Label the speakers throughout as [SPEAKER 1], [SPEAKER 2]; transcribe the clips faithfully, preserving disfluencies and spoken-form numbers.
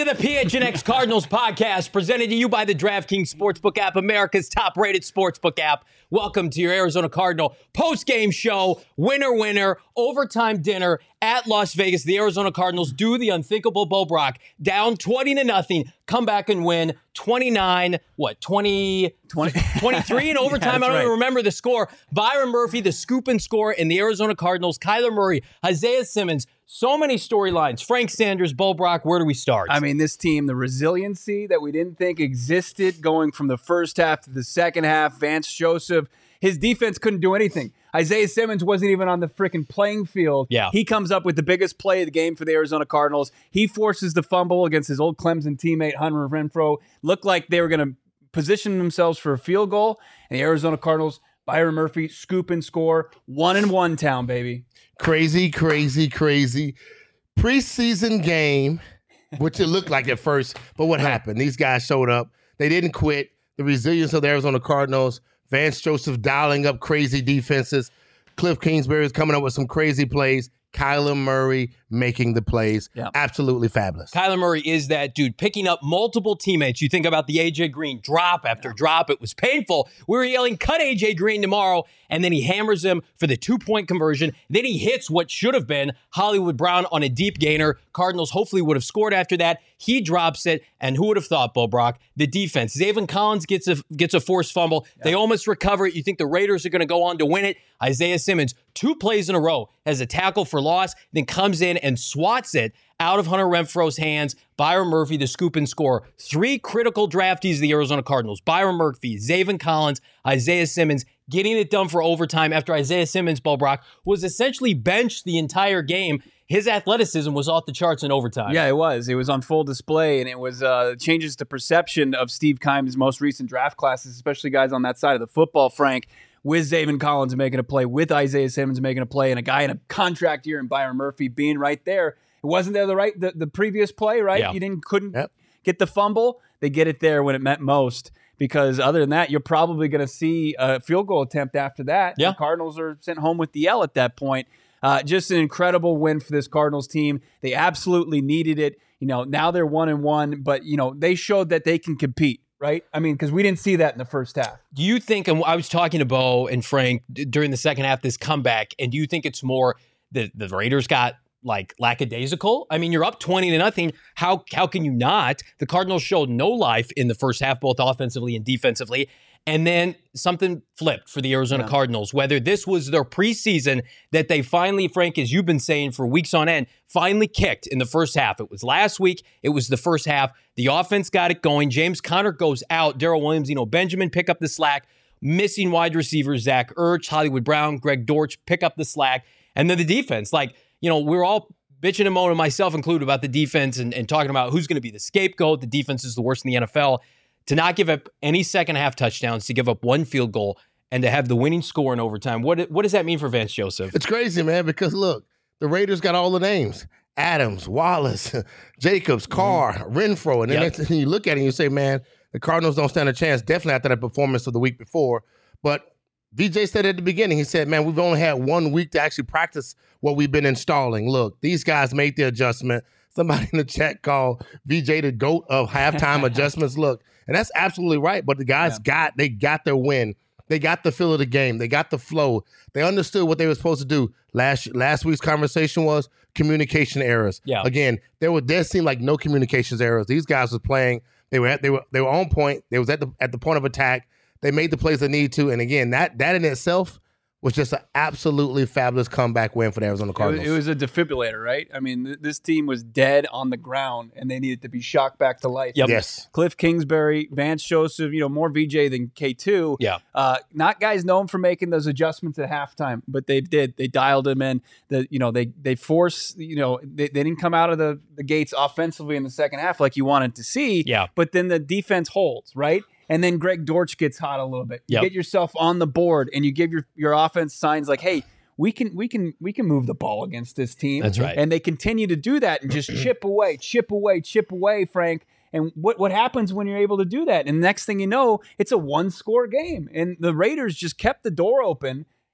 [SPEAKER 1] to the P H N X Cardinals podcast, presented to you by the DraftKings Sportsbook app, America's top-rated sportsbook app. Welcome to your Arizona Cardinal post-game show, winner, winner, overtime dinner at Las Vegas. The Arizona Cardinals do the unthinkable. Bo Brock down twenty to nothing, come back and win twenty-nine, what, twenty,
[SPEAKER 2] twenty
[SPEAKER 1] twenty-three in overtime?
[SPEAKER 2] Yeah,
[SPEAKER 1] I don't
[SPEAKER 2] right.
[SPEAKER 1] even remember the score. Byron Murphy, the scoop and score in the Arizona Cardinals. Kyler Murray, Isaiah Simmons. So many storylines. Frank Sanders, Bo Brock, where do we start?
[SPEAKER 2] I mean, this team, the resiliency that we didn't think existed going from the first half to the second half. Vance Joseph, his defense couldn't do anything. Isaiah Simmons wasn't even on the freaking playing field.
[SPEAKER 1] Yeah.
[SPEAKER 2] He comes up with the biggest play of the game for the Arizona Cardinals. He forces the fumble against his old Clemson teammate, Hunter Renfrow. Looked like they were going to position themselves for a field goal. And the Arizona Cardinals, Byron Murphy, scoop and score. One and one town, baby.
[SPEAKER 3] Crazy, crazy, crazy. Preseason game, which it looked like at first, but what happened? These guys showed up. They didn't quit. The resilience of the Arizona Cardinals, Vance Joseph dialing up crazy defenses, Cliff Kingsbury is coming up with some crazy plays, Kyler Murray making the plays.
[SPEAKER 2] Yeah.
[SPEAKER 3] Absolutely fabulous.
[SPEAKER 1] Kyler Murray is that dude, picking up multiple teammates. You think about the A J Green drop after yeah. drop. It was painful. We were yelling, cut A J Green tomorrow. And then he hammers him for the two-point conversion. Then he hits what should have been Hollywood Brown on a deep gainer. Cardinals hopefully would have scored after that. He drops it. And who would have thought, Bo Brock? The defense. Zaven Collins gets a gets a forced fumble. Yeah. They almost recover it. You think the Raiders are going to go on to win it. Isaiah Simmons, two plays in a row, has a tackle for loss, then comes in and swats it out of Hunter Renfrow's hands. Byron Murphy, the scoop and score. Three critical draftees of the Arizona Cardinals. Byron Murphy, Zaven Collins, Isaiah Simmons, getting it done for overtime after Isaiah Simmons, Bo Brock, was essentially benched the entire game. His athleticism was off the charts in overtime.
[SPEAKER 2] Yeah, it was. It was on full display, and it was uh, changes the perception of Steve Keim's most recent draft classes, especially guys on that side of the football, Frank, with Zaven Collins making a play, with Isaiah Simmons making a play, and a guy in a contract year and Byron Murphy being right there. It wasn't there the right the, the previous play, right?
[SPEAKER 1] Yeah.
[SPEAKER 2] You didn't couldn't
[SPEAKER 3] Yep.
[SPEAKER 2] get the fumble. They get it there when it meant most. Because other than that, you're probably going to see a field goal attempt after that.
[SPEAKER 1] Yeah.
[SPEAKER 2] The Cardinals are sent home with the L at that point. Uh, just an incredible win for this Cardinals team. They absolutely needed it. You know, now they're one and one, but you know they showed that they can compete, right? I mean, because we didn't see that in the first half.
[SPEAKER 1] Do you think, and I was talking to Bo and Frank d- during the second half, this comeback, and do you think it's more the, the Raiders got like lackadaisical? I mean, you're up twenty to nothing. How how can you not? The Cardinals showed no life in the first half, both offensively and defensively. And then something flipped for the Arizona yeah. Cardinals, whether this was their preseason that they finally, Frank, as you've been saying for weeks on end, finally kicked in the first half. It was last week. It was the first half. The offense got it going. James Conner goes out. Darrell Williams, you know, Benjamin pick up the slack. Missing wide receivers, Zach Ertz, Hollywood Brown, Greg Dortch pick up the slack. And then the defense, like, you know, we're all bitching and moaning, myself included, about the defense and, and talking about who's going to be the scapegoat. The defense is the worst in the N F L. To not give up any second half touchdowns, to give up one field goal, and to have the winning score in overtime. What what does that mean for Vance Joseph?
[SPEAKER 3] It's crazy, man, because look, the Raiders got all the names. Adams, Wallace, Jacobs, Carr, mm-hmm. Renfrow. And then
[SPEAKER 1] yep.
[SPEAKER 3] next, you look at it and you say, man, the Cardinals don't stand a chance, definitely after that performance of the week before. But V J said at the beginning, he said, man, we've only had one week to actually practice what we've been installing. Look, these guys made the adjustment. Somebody in the chat called V J the GOAT of halftime adjustments. Look, and that's absolutely right. But the guys yeah. got, they got their win. They got the feel of the game. They got the flow. They understood what they were supposed to do. Last last week's conversation was communication errors.
[SPEAKER 1] Yeah.
[SPEAKER 3] Again, there were there seemed like no communications errors. These guys were playing. They were at, they were they were on point. They was at the at the point of attack. They made the plays they needed to. And again, that that in itself was just an absolutely fabulous comeback win for the Arizona Cardinals.
[SPEAKER 2] It was, it was a defibrillator, right? I mean, th- this team was dead on the ground, and they needed to be shocked back to life.
[SPEAKER 1] Yep.
[SPEAKER 3] Yes.
[SPEAKER 2] Cliff Kingsbury, Vance Joseph, you know, more V J than K two.
[SPEAKER 1] Yeah.
[SPEAKER 2] Uh, not guys known for making those adjustments at halftime, but they did. They dialed them in. The, you know, they they force, you know, they, they didn't come out of the, the gates offensively in the second half like you wanted to see.
[SPEAKER 1] Yeah.
[SPEAKER 2] But then the defense holds, right? And then Greg Dortch gets hot a little bit. You
[SPEAKER 1] Yep.
[SPEAKER 2] get yourself on the board, and you give your, your offense signs like, hey, we can we can we can move the ball against this team.
[SPEAKER 1] That's right.
[SPEAKER 2] And they continue to do that and just chip away, chip away, chip away, Frank. And what what happens when you're able to do that? And next thing you know, it's a one-score game. And the Raiders just kept the door open.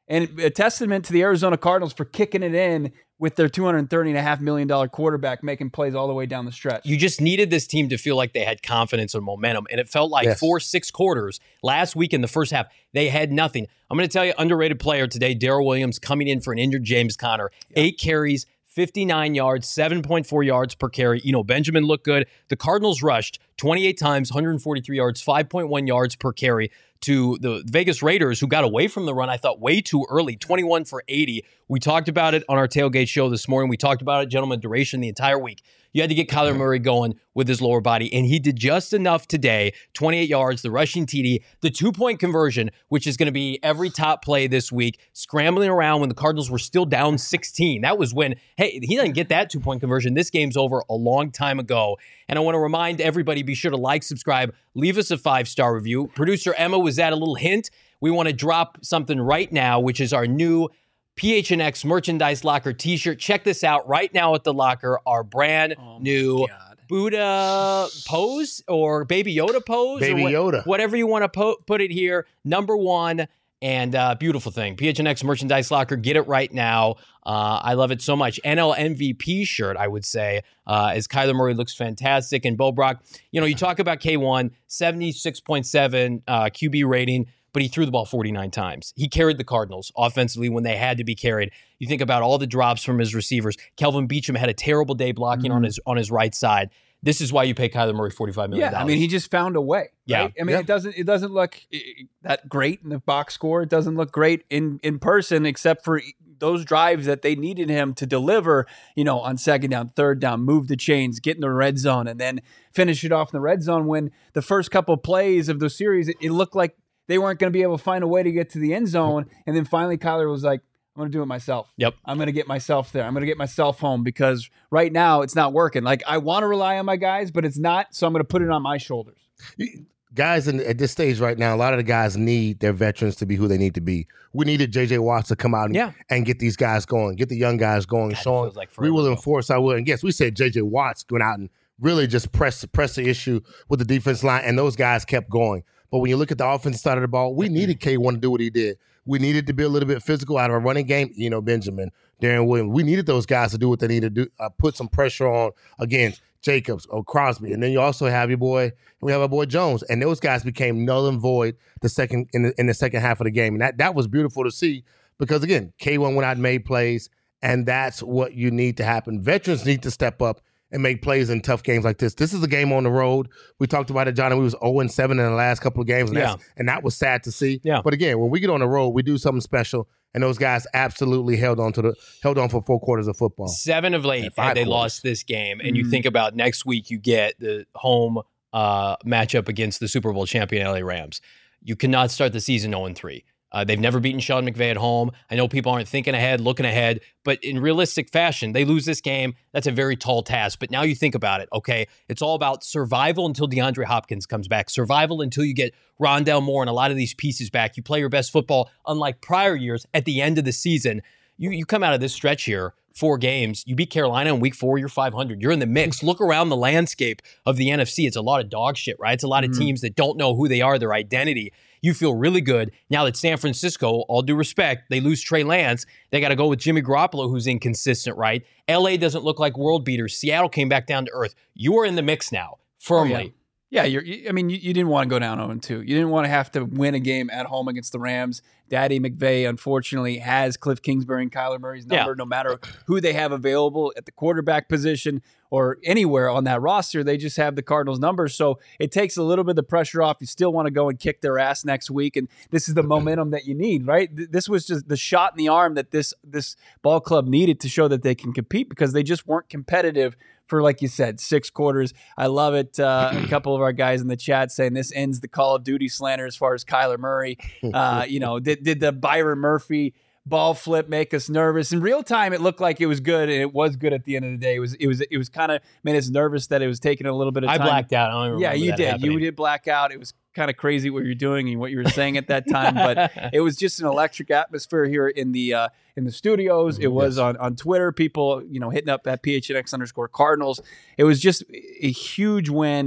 [SPEAKER 2] And a testament to the Arizona Cardinals for kicking it in with their two hundred thirty point five million dollars quarterback making plays all the way down the stretch.
[SPEAKER 1] You just needed this team to feel like they had confidence and momentum. And it felt like
[SPEAKER 3] Yes.
[SPEAKER 1] four, six quarters last week in the first half, they had nothing. I'm going to tell you, underrated player today, Darrell Williams, coming in for an injured James Conner. Yeah. Eight carries, fifty-nine yards, seven point four yards per carry. You know, Benjamin looked good. The Cardinals rushed twenty-eight times, one hundred forty-three yards, five point one yards per carry to the Vegas Raiders, who got away from the run, I thought, way too early, twenty-one for eighty. We talked about it on our tailgate show this morning. We talked about it, gentlemen, duration the entire week. You had to get Kyler Murray going with his lower body, and he did just enough today. twenty-eight yards, the rushing T D, the two-point conversion, which is going to be every top play this week, scrambling around when the Cardinals were still down sixteen. That was when, hey, he doesn't get that two-point conversion. This game's over a long time ago. And I want to remind everybody, be sure to like, subscribe, leave us a five-star review. Producer Emma, was that a little hint? We want to drop something right now, which is our new P H N X Merchandise Locker t-shirt. Check this out right now at the locker, our brand
[SPEAKER 2] Oh my
[SPEAKER 1] new
[SPEAKER 2] God.
[SPEAKER 1] Buddha pose or Baby Yoda pose.
[SPEAKER 3] Baby
[SPEAKER 1] or what-
[SPEAKER 3] Yoda.
[SPEAKER 1] Whatever you want to po- put it here. Number one, and uh, beautiful thing. P H N X Merchandise Locker. Get it right now. Uh, I love it so much. N L M V P shirt, I would say, uh, as Kyler Murray looks fantastic. And Bo Brock, you know, you talk about K one, seventy-six point seven uh, Q B rating, but he threw the ball forty-nine times. He carried the Cardinals offensively when they had to be carried. You think about all the drops from his receivers. Kelvin Beachum had a terrible day blocking
[SPEAKER 2] Mhm.
[SPEAKER 1] on his on his right side. This is why you pay Kyler Murray forty-five million dollars.
[SPEAKER 2] Yeah, I mean, he just found a way.
[SPEAKER 1] Yeah.
[SPEAKER 2] Right? I mean,
[SPEAKER 3] Yeah.
[SPEAKER 2] it doesn't it doesn't look eh, that great in the box score. It doesn't look great in in person, except for those drives that they needed him to deliver. You know, on second down, third down, move the chains, get in the red zone, and then finish it off in the red zone. When the first couple of plays of the series, it, it looked like they weren't going to be able to find a way to get to the end zone, and then finally Kyler was like, I'm going to do it myself.
[SPEAKER 1] Yep.
[SPEAKER 2] I'm going to get myself there. I'm going to get myself home because right now it's not working. Like, I want to rely on my guys, but it's not. So I'm going to put it on my shoulders.
[SPEAKER 3] Guys in, at this stage right now, a lot of the guys need their veterans to be who they need to be. We needed J J Watts to come out and,
[SPEAKER 1] Yeah.
[SPEAKER 3] and get these guys going, get the young guys going,
[SPEAKER 1] God, it
[SPEAKER 3] showing
[SPEAKER 1] feels like
[SPEAKER 3] we
[SPEAKER 1] forever
[SPEAKER 3] will
[SPEAKER 1] ago.
[SPEAKER 3] enforce our will. And yes, we said J J Watts went out and really just press press the issue with the defense line, and those guys kept going. But when you look at the offensive side of the ball, we needed K one to do what he did. We needed to be a little bit physical out of our running game. You know, Benjamin, Darren Williams. We needed those guys to do what they need to do, uh, put some pressure on against Jacobs or Crosby. And then you also have your boy, we have our boy Jones. And those guys became null and void the second in the, in the second half of the game. And that, that was beautiful to see because, again, K one went out and made plays, and that's what you need to happen. Veterans need to step up and make plays in tough games like this. This is a game on the road. We talked about it, Johnny. We was oh and seven in the last couple of games, and,
[SPEAKER 1] Yeah.
[SPEAKER 3] that's, and that was sad to see.
[SPEAKER 1] Yeah.
[SPEAKER 3] But again, when we get on the road, we do something special, and those guys absolutely held on to the held on for four quarters of football.
[SPEAKER 1] Seven of late
[SPEAKER 3] Yeah, five
[SPEAKER 1] had they
[SPEAKER 3] quarters.
[SPEAKER 1] lost this game. And you
[SPEAKER 2] Mhm.
[SPEAKER 1] think about next week, you get the home uh, matchup against the Super Bowl champion L A Rams. You cannot start the season oh and three. Uh, they've never beaten Sean McVay at home. I know people aren't thinking ahead, looking ahead, but in realistic fashion, they lose this game. That's a very tall task. But now you think about it, okay? It's all about survival until DeAndre Hopkins comes back, survival until you get Rondell Moore and a lot of these pieces back. You play your best football, unlike prior years, at the end of the season. You, you come out of this stretch here, four games, you beat Carolina in week four, you're five hundred. You're in the mix. Look around the landscape of the N F C. It's a lot of dog shit, right? It's a lot of
[SPEAKER 2] Mhm.
[SPEAKER 1] teams that don't know who they are, their identity. You feel really good. Now that San Francisco, all due respect, they lose Trey Lance. They got to go with Jimmy Garoppolo, who's inconsistent, right? L A doesn't look like world beaters. Seattle came back down to earth. You are in the mix now, firmly.
[SPEAKER 2] Yeah, you're, you, I mean, you, you didn't want to go down oh and two. You didn't want to have to win a game at home against the Rams. Daddy McVay, unfortunately, has Cliff Kingsbury and Kyler Murray's number,
[SPEAKER 1] Yeah.
[SPEAKER 2] no matter who they have available at the quarterback position or anywhere on that roster. They just have the Cardinals' number. So it takes a little bit of the pressure off. You still want to go and kick their ass next week. And this is the momentum that you need, right? Th- This was just the shot in the arm that this, this ball club needed to show that they can compete because they just weren't competitive for, like you said, six quarters. I love it. Uh, a couple of our guys in the chat saying this ends the Call of Duty slander as far as Kyler Murray. Uh, you know, did, did the Byron Murphy ball flip make us nervous? In real time, it looked like it was good, and it was good at the end of the day. It was, it was, it was kind of made us nervous that it was taking a little bit of
[SPEAKER 1] I
[SPEAKER 2] time.
[SPEAKER 1] blacked out. I don't even
[SPEAKER 2] Yeah,
[SPEAKER 1] remember
[SPEAKER 2] you
[SPEAKER 1] that
[SPEAKER 2] did.
[SPEAKER 1] happening.
[SPEAKER 2] You did black out. It was kind of crazy what you're doing and what you were saying at that time, but it was just an electric atmosphere here in the uh, in the studios. It was
[SPEAKER 3] Yes.
[SPEAKER 2] on on Twitter, people, you know, hitting up at P H N X underscore Cardinals. It was just a huge win.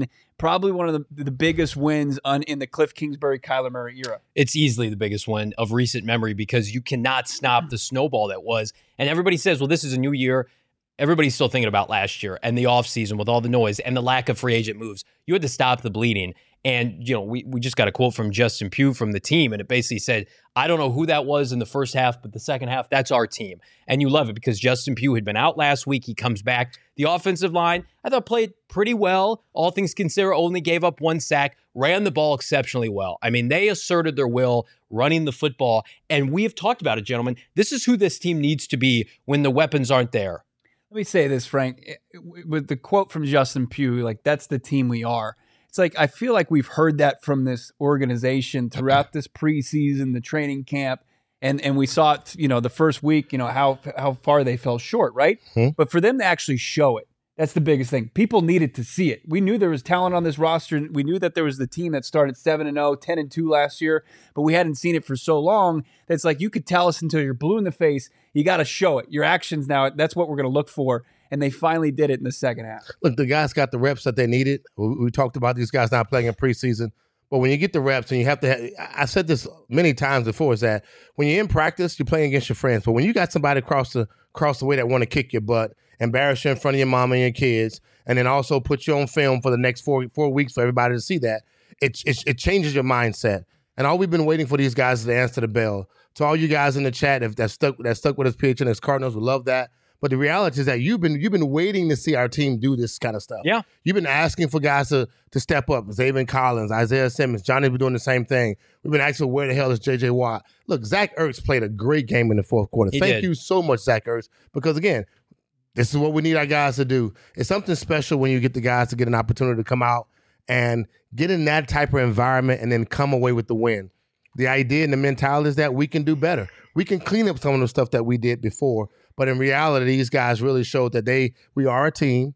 [SPEAKER 2] probably one of the, the biggest wins on, in the Cliff Kingsbury, Kyler Murray era.
[SPEAKER 1] It's easily the biggest win of recent memory because you cannot stop the snowball that was. And everybody says, well, this is a new year. Everybody's still thinking about last year and the offseason with all the noise and the lack of free agent moves. You had to stop the bleeding. And, you know, we, we just got a quote from Justin Pugh from the team, and it basically said, I don't know who that was in the first half, but the second half, that's our team. And you love it because Justin Pugh had been out last week. He comes back. The offensive line, I thought, played pretty well. All things considered, only gave up one sack, ran the ball exceptionally well. I mean, they asserted their will running the football. And we have talked about it, gentlemen. This is who this team needs to be when the weapons aren't there.
[SPEAKER 2] Let me say this, Frank, with the quote from Justin Pugh, like, that's the team we are. It's like, I feel like we've heard that from this organization throughout this preseason, the training camp, and and we saw it, you know, the first week, you know, how how far they fell short, right? Hmm. But for them to actually show it, that's the biggest thing. People needed to see it. We knew there was talent on this roster. We knew that there was the team that started seven and oh, ten and two last year, but we hadn't seen it for so long that it's like, you could tell us until you're blue in the face. You got to show it. Your actions now, that's what we're going to look for. And they finally did it in the second half.
[SPEAKER 3] Look, the guys got the reps that they needed. We, we talked about these guys not playing in preseason. But when you get the reps and you have to have, I said this many times before, is that when you're in practice, you're playing against your friends. But when you got somebody across the across the way that want to kick your butt, embarrass you in front of your mom and your kids, and then also put you on film for the next four four weeks for everybody to see that, it, it, it changes your mindset. And all we've been waiting for these guys is to answer the bell. To all you guys in the chat that stuck that stuck with us, P H N X Cardinals, we love that. But the reality is that you've been you've been waiting to see our team do this kind of stuff.
[SPEAKER 1] Yeah.
[SPEAKER 3] You've been asking for guys to to step up. Zaven Collins, Isaiah Simmons, Johnny's been doing the same thing. We've been asking where the hell is J J Watt? Look, Zach Ertz played a great game in the fourth quarter.
[SPEAKER 1] He
[SPEAKER 3] Thank
[SPEAKER 1] did.
[SPEAKER 3] you so much, Zach Ertz, because again, this is what we need our guys to do. It's something special when you get the guys to get an opportunity to come out and get in that type of environment and then come away with the win. The idea and the mentality is that we can do better. We can clean up some of the stuff that we did before. But in reality, these guys really showed that they we are a team.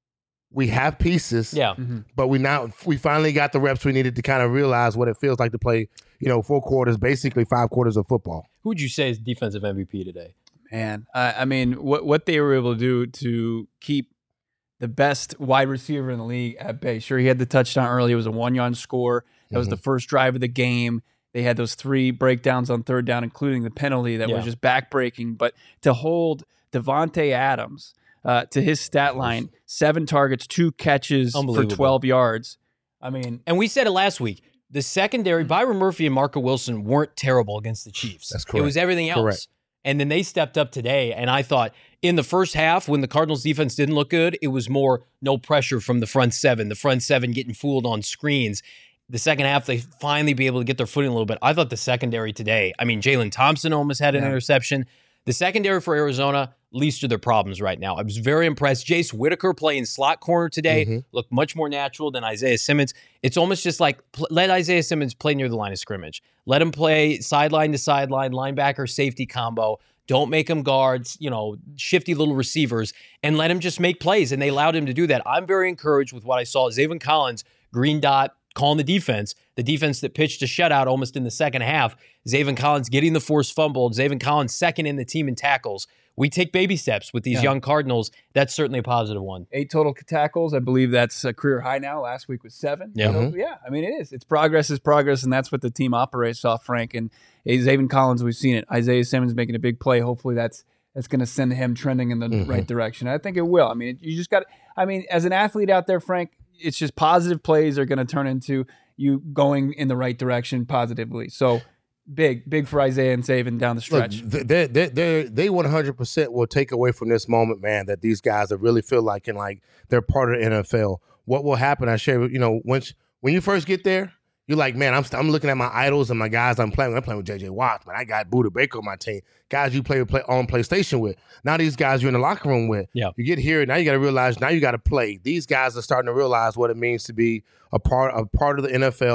[SPEAKER 3] We have pieces.
[SPEAKER 1] Yeah.
[SPEAKER 2] Mm-hmm.
[SPEAKER 3] But we now we finally got the reps we needed to kind of realize what it feels like to play, you know, four quarters, basically five quarters of football.
[SPEAKER 1] Who would you say is defensive M V P today?
[SPEAKER 2] Man, I, I mean, what what they were able to do to keep the best wide receiver in the league at bay. Sure, he had the touchdown early. It was a one-yard score. That mm-hmm. was the first drive of the game. They had those three breakdowns on third down, including the penalty that
[SPEAKER 1] yeah.
[SPEAKER 2] was just backbreaking. But to hold Devontae Adams uh, to his stat line, seven targets, two catches for twelve yards. I mean,
[SPEAKER 1] and we said it last week. The secondary, Byron Murphy and Marco Wilson weren't terrible against the Chiefs.
[SPEAKER 3] That's correct.
[SPEAKER 1] It was everything else.
[SPEAKER 3] Correct.
[SPEAKER 1] And then they stepped up today. And I thought in the first half, when the Cardinals defense didn't look good, it was more no pressure from the front seven, the front seven getting fooled on screens. The second half, they finally be able to get their footing a little bit. I thought the secondary today, I mean, Jalen Thompson almost had an yeah. interception. The secondary for Arizona, least of their problems right now. I was very impressed. Jace Whitaker playing slot corner today mm-hmm. looked much more natural than Isaiah Simmons. It's almost just like pl- let Isaiah Simmons play near the line of scrimmage. Let him play sideline to sideline, linebacker, safety combo. Don't make him guards, you know, shifty little receivers, and let him just make plays. And they allowed him to do that. I'm very encouraged with what I saw. Zaven Collins, green dot, calling the defense, the defense that pitched a shutout almost in the second half. Zaven Collins getting the forced fumble. Zaven Collins second in the team in tackles. We take baby steps with these yeah. young Cardinals. That's certainly a positive one.
[SPEAKER 2] Eight total tackles. I believe that's a career high now. Last week was seven.
[SPEAKER 1] Yeah,
[SPEAKER 2] so,
[SPEAKER 1] mm-hmm.
[SPEAKER 2] yeah. I mean, it is. It's progress is progress, and that's what the team operates off, Frank. And Zaven Collins, we've seen it. Isaiah Simmons making a big play. Hopefully that's that's going to send him trending in the mm-hmm. right direction. I think it will. I mean, you just got – I mean, as an athlete out there, Frank, it's just positive plays are going to turn into you going in the right direction positively. So big, big for Isaiah and Zaven down the stretch.
[SPEAKER 3] Look, they they they they one hundred percent will take away from this moment, man, that these guys that really feel like and like they're part of the N F L. What will happen? I share, you know, once when you first get there, you're like, man, I'm I'm looking at my idols and my guys I'm playing with. I'm playing with J J Watt, man. I got Buda Baker on my team. Guys you play, play on PlayStation with. Now these guys you're in the locker room with.
[SPEAKER 1] Yeah.
[SPEAKER 3] You get here, now you got to realize, now you got to play. These guys are starting to realize what it means to be a part, a part of the N F L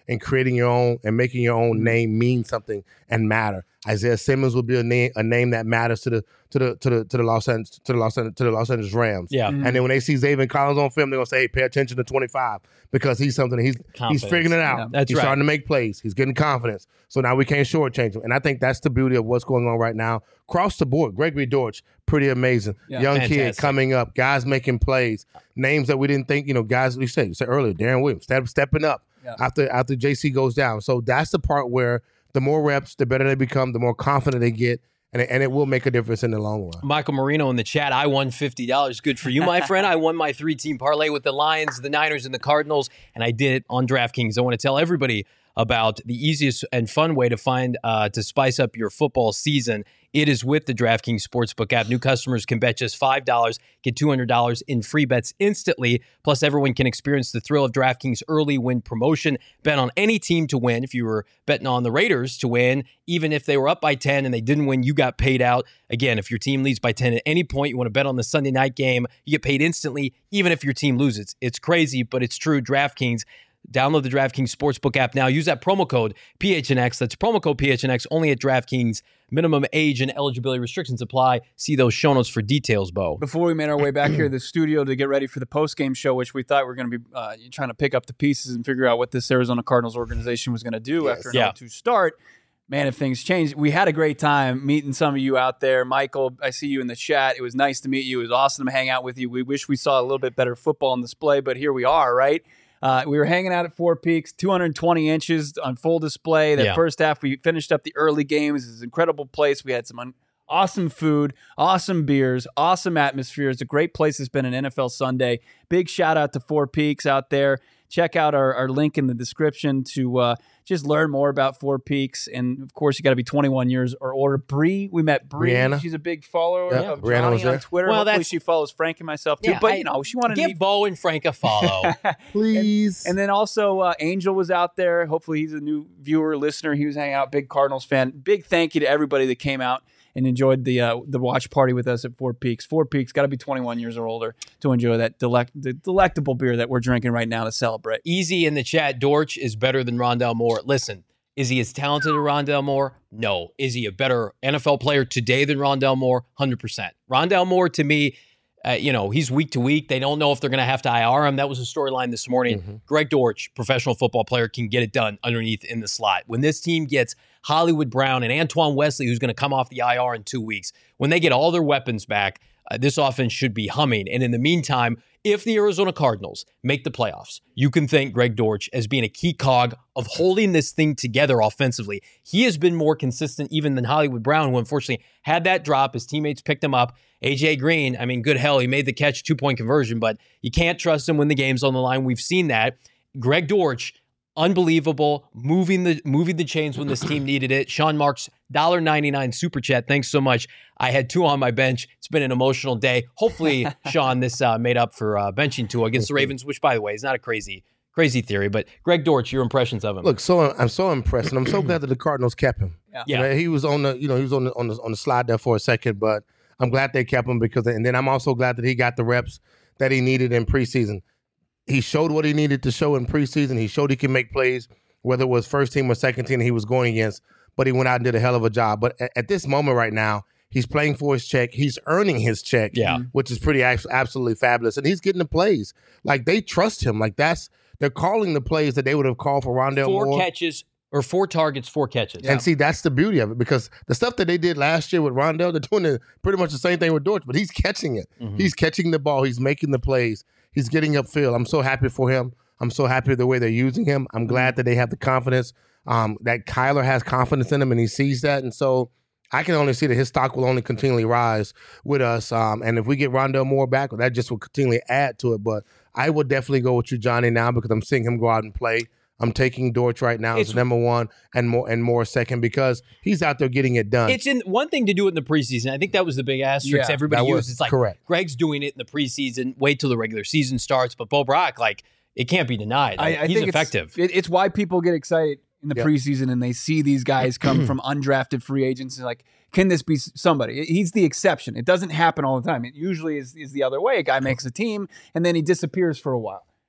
[SPEAKER 3] and creating your own and making your own name mean something and matter. Isaiah Simmons will be a name a name that matters to the to the to the to the Los Angeles to the Los Angeles to the Los Angeles Rams.
[SPEAKER 1] Yeah.
[SPEAKER 3] And then when they see Zaven Collins on film, they're gonna say, hey, pay attention to twenty-five because he's something he's
[SPEAKER 1] Confidence.
[SPEAKER 3] he's figuring it out.
[SPEAKER 2] Yeah,
[SPEAKER 1] that's
[SPEAKER 3] he's
[SPEAKER 1] right.
[SPEAKER 3] starting to make plays. He's getting confidence. So now we can't shortchange him. And I think that's the beauty of what's going on right now. Across the board, Gregory Dortch, pretty amazing.
[SPEAKER 2] Yeah.
[SPEAKER 3] Young
[SPEAKER 1] Fantastic.
[SPEAKER 3] kid coming up, guys making plays, names that we didn't think, you know, guys we said, you said earlier, Darren Williams, step, stepping up
[SPEAKER 2] Yeah.
[SPEAKER 3] after after J C goes down. So that's the part where the more reps, the better they become, the more confident they get, and it, and it will make a difference in the long run.
[SPEAKER 1] Michael Marino in the chat. I won fifty dollars. Good for you, my friend. I won my three-team parlay with the Lions, the Niners, and the Cardinals, and I did it on DraftKings. I want to tell everybody about the easiest and fun way to find uh, to spice up your football season. It is with the DraftKings Sportsbook app. New customers can bet just five dollars, get two hundred dollars in free bets instantly. Plus, everyone can experience the thrill of DraftKings early win promotion. Bet on any team to win. If you were betting on the Raiders to win, even if they were up by ten and they didn't win, you got paid out. Again, if your team leads by ten at any point, you want to bet on the Sunday night game, you get paid instantly, even if your team loses. It's crazy, but it's true. DraftKings. Download the DraftKings Sportsbook app now. Use that promo code P H N X. That's promo code P H N X only at DraftKings. Minimum age and eligibility restrictions apply. See those show notes for details, Bo.
[SPEAKER 2] Before we made our way back here to the studio to get ready for the post-game show, which we thought we were going to be uh, trying to pick up the pieces and figure out what this Arizona Cardinals organization was going to do
[SPEAKER 3] Yes.
[SPEAKER 2] after an
[SPEAKER 1] Yeah.
[SPEAKER 2] oh two start. Man, if things change. We had a great time meeting some of you out there. Michael, I see you in the chat. It was nice to meet you. It was awesome to hang out with you. We wish we saw a little bit better football on display, but here we are, right? Uh, we were hanging out at Four Peaks, two hundred twenty inches on full display. That
[SPEAKER 1] Yeah.
[SPEAKER 2] first half, we finished up the early games. It's an incredible place. We had some un- awesome food, awesome beers, awesome atmosphere. It's a great place to spend an N F L Sunday. Big shout out to Four Peaks out there. Check out our, our link in the description to uh, just learn more about Four Peaks. And, of course, you got to be twenty-one years or older. Bree, we met Bree.
[SPEAKER 3] Brianna.
[SPEAKER 2] She's a big follower
[SPEAKER 3] Yeah,
[SPEAKER 2] of
[SPEAKER 3] Brianna
[SPEAKER 2] Johnny
[SPEAKER 3] was there.
[SPEAKER 2] on Twitter.
[SPEAKER 1] Well,
[SPEAKER 2] Hopefully
[SPEAKER 1] that's-
[SPEAKER 2] she follows Frank and myself, too.
[SPEAKER 1] Yeah,
[SPEAKER 2] but,
[SPEAKER 1] I-
[SPEAKER 2] you know, she wanted to
[SPEAKER 1] Give
[SPEAKER 2] meet
[SPEAKER 1] Bo and Frank a follow.
[SPEAKER 3] Please.
[SPEAKER 2] And then also uh, Angel was out there. Hopefully he's a new viewer, listener. He was hanging out, big Cardinals fan. Big thank you to everybody that came out and enjoyed the uh, the watch party with us at Four Peaks. Four Peaks, got to be twenty-one years or older to enjoy that delect- the delectable beer that we're drinking right now to celebrate.
[SPEAKER 1] Easy in the chat. Dortch is better than Rondell Moore. Listen, is he as talented as Rondell Moore? No. Is he a better N F L player today than Rondell Moore? one hundred percent. Rondell Moore, to me, uh, you know, he's week to week. They don't know if they're going to have to I R him. That was a storyline this morning.
[SPEAKER 3] Mm-hmm.
[SPEAKER 1] Greg Dortch, professional football player, can get it done underneath in the slot. When this team gets Hollywood Brown and Antoine Wesley, who's going to come off the I R in two weeks, when they get all their weapons back, uh, this offense should be humming. And in the meantime, if the Arizona Cardinals make the playoffs, you can thank Greg Dortch as being a key cog of holding this thing together offensively. He has been more consistent even than Hollywood Brown, who unfortunately had that drop. His teammates picked him up. A J Green, I mean, good hell, he made the catch, two-point conversion, but you can't trust him when the game's on the line. We've seen that. Greg Dortch, unbelievable, moving the moving the chains when this team needed it. Sean Marks, one dollar ninety-nine super chat. Thanks so much. I had two on my bench. It's been an emotional day. Hopefully, Sean, this uh, made up for uh, benching two against the Ravens, which, by the way, is not a crazy, crazy theory. But Greg Dortch, your impressions of him?
[SPEAKER 3] Look, so I'm so impressed, and I'm so glad that the Cardinals kept him.
[SPEAKER 2] Yeah.
[SPEAKER 1] Yeah.
[SPEAKER 3] You know, he was on the, you know, he was on the on the on the slide there for a second, but I'm glad they kept him because, and then I'm also glad that he got the reps that he needed in preseason. He showed what he needed to show in preseason. He showed he can make plays, whether it was first team or second team he was going against. But he went out and did a hell of a job. But at, at this moment right now, he's playing for his check. He's earning his check,
[SPEAKER 1] Yeah.
[SPEAKER 3] which is pretty absolutely fabulous. And he's getting the plays. Like, they trust him. Like, that's they're calling the plays that they would have called for Rondell
[SPEAKER 1] Four
[SPEAKER 3] Moore.
[SPEAKER 1] catches or four targets, four catches.
[SPEAKER 3] And see, that's the beauty of it, because the stuff that they did last year with Rondell, they're doing the, pretty much the same thing with Dortch, but he's catching it.
[SPEAKER 1] Mhm.
[SPEAKER 3] He's catching the ball. He's making the plays. He's getting upfield. I'm so happy for him. I'm so happy the way they're using him. I'm glad that they have the confidence, um, that Kyler has confidence in him, and he sees that. And so I can only see that his stock will only continually rise with us. Um, and if we get Rondell Moore back, that just will continually add to it. But I would definitely go with you, Johnny, now, because I'm seeing him go out and play. I'm taking Dortch right now
[SPEAKER 1] It's-
[SPEAKER 3] as number one and more and more second, because he's out there getting it done.
[SPEAKER 1] It's in one thing to do it in the preseason. I think that was the big asterisk
[SPEAKER 2] Yeah,
[SPEAKER 1] everybody
[SPEAKER 3] that was
[SPEAKER 1] used. It's like
[SPEAKER 3] correct.
[SPEAKER 1] Greg's doing it in the preseason. Wait till the regular season starts. But Bo Brock, like, it can't be denied.
[SPEAKER 2] I, I
[SPEAKER 1] He's
[SPEAKER 2] think
[SPEAKER 1] effective.
[SPEAKER 2] It's, it, it's why people get excited in the
[SPEAKER 3] Yep.
[SPEAKER 2] preseason and they see these guys come from undrafted free agents and like, can this be s- somebody? He's the exception. It doesn't happen all the time. It usually is, is the other way. A guy makes a team and then he disappears for a while.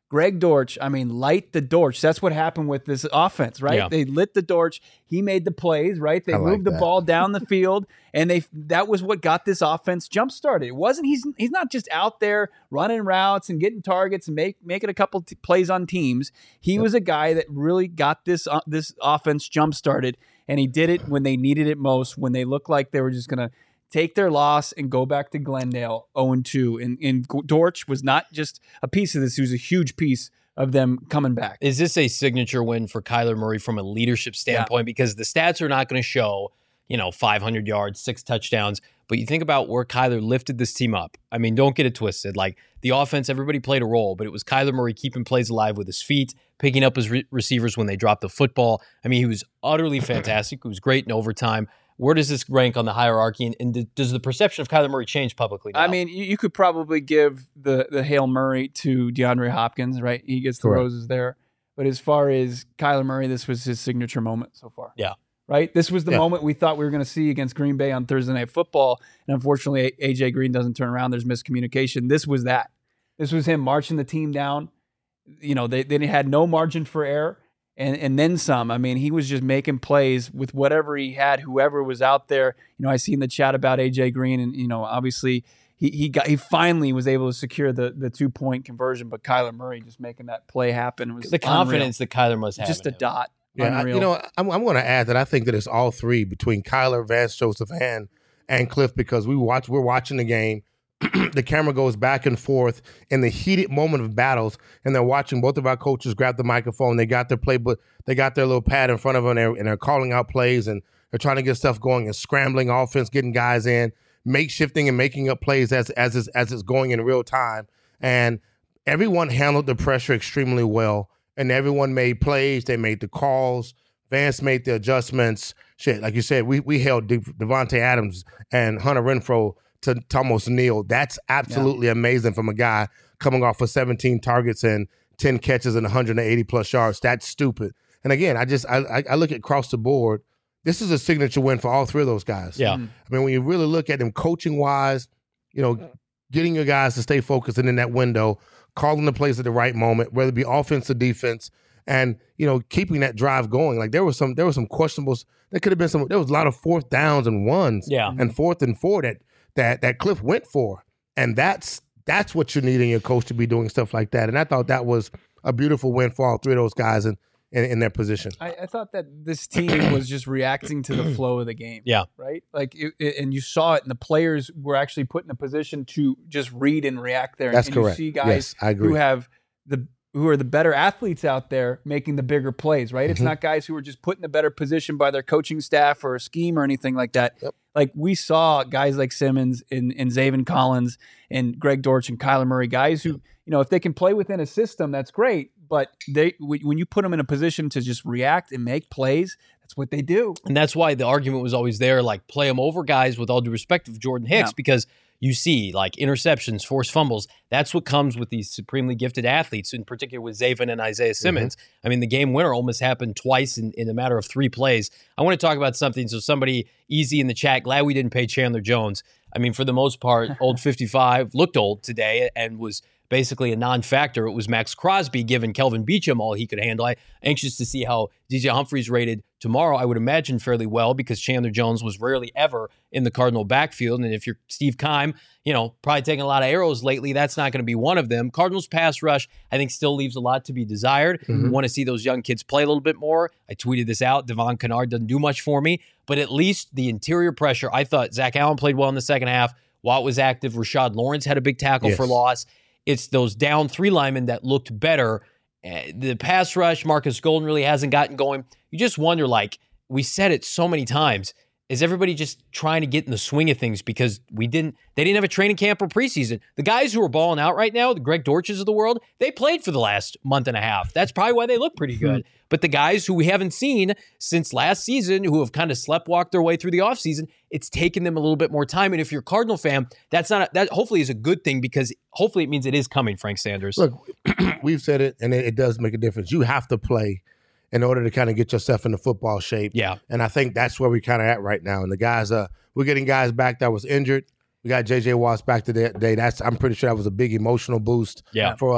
[SPEAKER 2] Greg Dortch, I mean, light the Dortch. That's what happened with this offense, right?
[SPEAKER 1] Yeah.
[SPEAKER 2] They lit the Dortch. He made the plays, right? They
[SPEAKER 3] I like
[SPEAKER 2] moved the
[SPEAKER 3] that.
[SPEAKER 2] ball down the field, and they that was what got this offense jump started. It wasn't he's he's not just out there running routes and getting targets and make making a couple t- plays on teams. He yep. was a guy that really got this uh, this offense jump started, and he did it when they needed it most, when they looked like they were just going to take their loss and go back to Glendale oh and two. And, and Dortch was not just a piece of this. He was a huge piece of them coming back.
[SPEAKER 1] Is this a signature win for Kyler Murray from a leadership standpoint? Yeah. Because the stats are not going to show, you know, five hundred yards, six touchdowns. But you think about where Kyler lifted this team up. I mean, don't get it twisted. Like, the offense, everybody played a role, but it was Kyler Murray keeping plays alive with his feet, picking up his re- receivers when they dropped the football. I mean, he was utterly fantastic. He was great in overtime. Where does this rank on the hierarchy, and, and does the perception of Kyler Murray change publicly now?
[SPEAKER 2] I mean, you, you could probably give the the Hail Murray to DeAndre Hopkins, right? He gets the
[SPEAKER 3] Correct.
[SPEAKER 2] roses there. But as far as Kyler Murray, this was his signature moment so far.
[SPEAKER 1] Yeah.
[SPEAKER 2] Right? This was the
[SPEAKER 3] Yeah.
[SPEAKER 2] moment we thought we were going to see against Green Bay on Thursday Night Football, and unfortunately, A J Green doesn't turn around. There's miscommunication. This was that. This was him marching the team down. You know, they, they had no margin for error. And and then some. I mean, he was just making plays with whatever he had, whoever was out there. You know, I see in the chat about A J Green, and you know, obviously he he got he finally was able to secure the the two point conversion. But Kyler Murray just making that play happen was
[SPEAKER 1] the confidence
[SPEAKER 2] unreal.
[SPEAKER 1] that Kyler must have.
[SPEAKER 2] Just
[SPEAKER 1] in
[SPEAKER 2] a
[SPEAKER 1] him.
[SPEAKER 2] dot.
[SPEAKER 3] Yeah, I,
[SPEAKER 2] Unreal.
[SPEAKER 3] you know, I'm, I'm going to add that I think that it's all three between Kyler, Vance Joseph, and and Cliff, because we watch we're watching the game. The camera goes back and forth in the heated moment of battles, and they're watching both of our coaches grab the microphone. They got their playbook, they got their little pad in front of them, and they're, and they're calling out plays, and they're trying to get stuff going and scrambling offense, getting guys in, makeshifting and making up plays as as it's, as it's going in real time. And everyone handled the pressure extremely well, and everyone made plays. They made the calls. Vance made the adjustments. Shit, like you said, we we held De- Devontae Adams and Hunter Renfrow to, to almost kneel. That's absolutely yeah. amazing from a guy coming off of seventeen targets and ten catches and one hundred eighty plus yards. That's stupid. And again, I just I, I look at across the board. This is a signature win for all three of those guys.
[SPEAKER 1] Yeah.
[SPEAKER 3] I mean, when you really look at them coaching wise, you know, getting your guys to stay focused and in that window, calling the plays at the right moment, whether it be offense or defense, and you know, keeping that drive going. Like there was some there was some questionables. There could have been some. There was a lot of fourth downs and ones.
[SPEAKER 1] Yeah.
[SPEAKER 3] And fourth and four that. that that Cliff went for. And that's that's what you need in your coach to be doing stuff like that. And I thought that was a beautiful win for all three of those guys in, in, in their position.
[SPEAKER 2] I, I thought that this team was just reacting to the flow of the game.
[SPEAKER 1] Yeah.
[SPEAKER 2] Right? Like, it, it, and you saw it, and the players were actually put in a position to just read and react there.
[SPEAKER 3] That's
[SPEAKER 2] and
[SPEAKER 3] correct.
[SPEAKER 2] You see guys
[SPEAKER 3] yes, I agree.
[SPEAKER 2] who have the who are the better athletes out there making the bigger plays, right? Mm-hmm. It's not guys who are just put in a better position by their coaching staff or a scheme or anything like that.
[SPEAKER 3] Yep.
[SPEAKER 2] Like we saw guys like Simmons and, and Zaven Collins and Greg Dortch and Kyler Murray, guys who, you know, if they can play within a system, that's great. But they when you put them in a position to just react and make plays, that's what they do.
[SPEAKER 1] And that's why the argument was always there, like play them over guys with all due respect of Jordan Hicks, yeah. because you see like interceptions, forced fumbles. That's what comes with these supremely gifted athletes, in particular with Zaven and Isaiah Simmons. Mm-hmm. I mean, the game winner almost happened twice in, in a matter of three plays. I want to talk about something. So somebody easy in the chat, glad we didn't pay Chandler Jones. I mean, for the most part, old fifty-five, looked old today and was basically a non-factor. It was Max Crosby giving Kelvin Beachum all he could handle. I'm anxious to see how D J Humphries rated tomorrow. I would imagine fairly well because Chandler Jones was rarely ever in the Cardinal backfield. And if you're Steve Keim, you know, probably taking a lot of arrows lately, that's not going to be one of them. Cardinals pass rush, I think, still leaves a lot to be desired. Mm-hmm. We want to see those young kids play a little bit more. I tweeted this out. Devon Kennard doesn't do much for me, but at least the interior pressure. I thought Zach Allen played well in the second half. Watt was active. Rashad Lawrence had a big tackle yes. for loss. It's those down three linemen that looked better. Uh, the pass rush, Marcus Golden really hasn't gotten going. You just wonder, like, we said it so many times, is everybody just trying to get in the swing of things because we didn't, they didn't have a training camp or preseason. The guys who are balling out right now, the Greg Dortches of the world, they played for the last month and a half. That's probably why they look pretty good. But the guys who we haven't seen since last season, who have kind of sleptwalked their way through the offseason, it's taken them a little bit more time. And if you're a Cardinal fan, that's not a, that hopefully is a good thing because hopefully it means it is coming, Frank Sanders.
[SPEAKER 3] Look, we've said it, and it, it does make a difference. You have to play in order to kind of get yourself into football shape.
[SPEAKER 1] Yeah.
[SPEAKER 3] And I think that's where we're kind of at right now. And the guys, uh, we're getting guys back that was injured. We got J J Watts back today. That's I'm pretty sure that was a big emotional boost
[SPEAKER 1] yeah.
[SPEAKER 3] for us.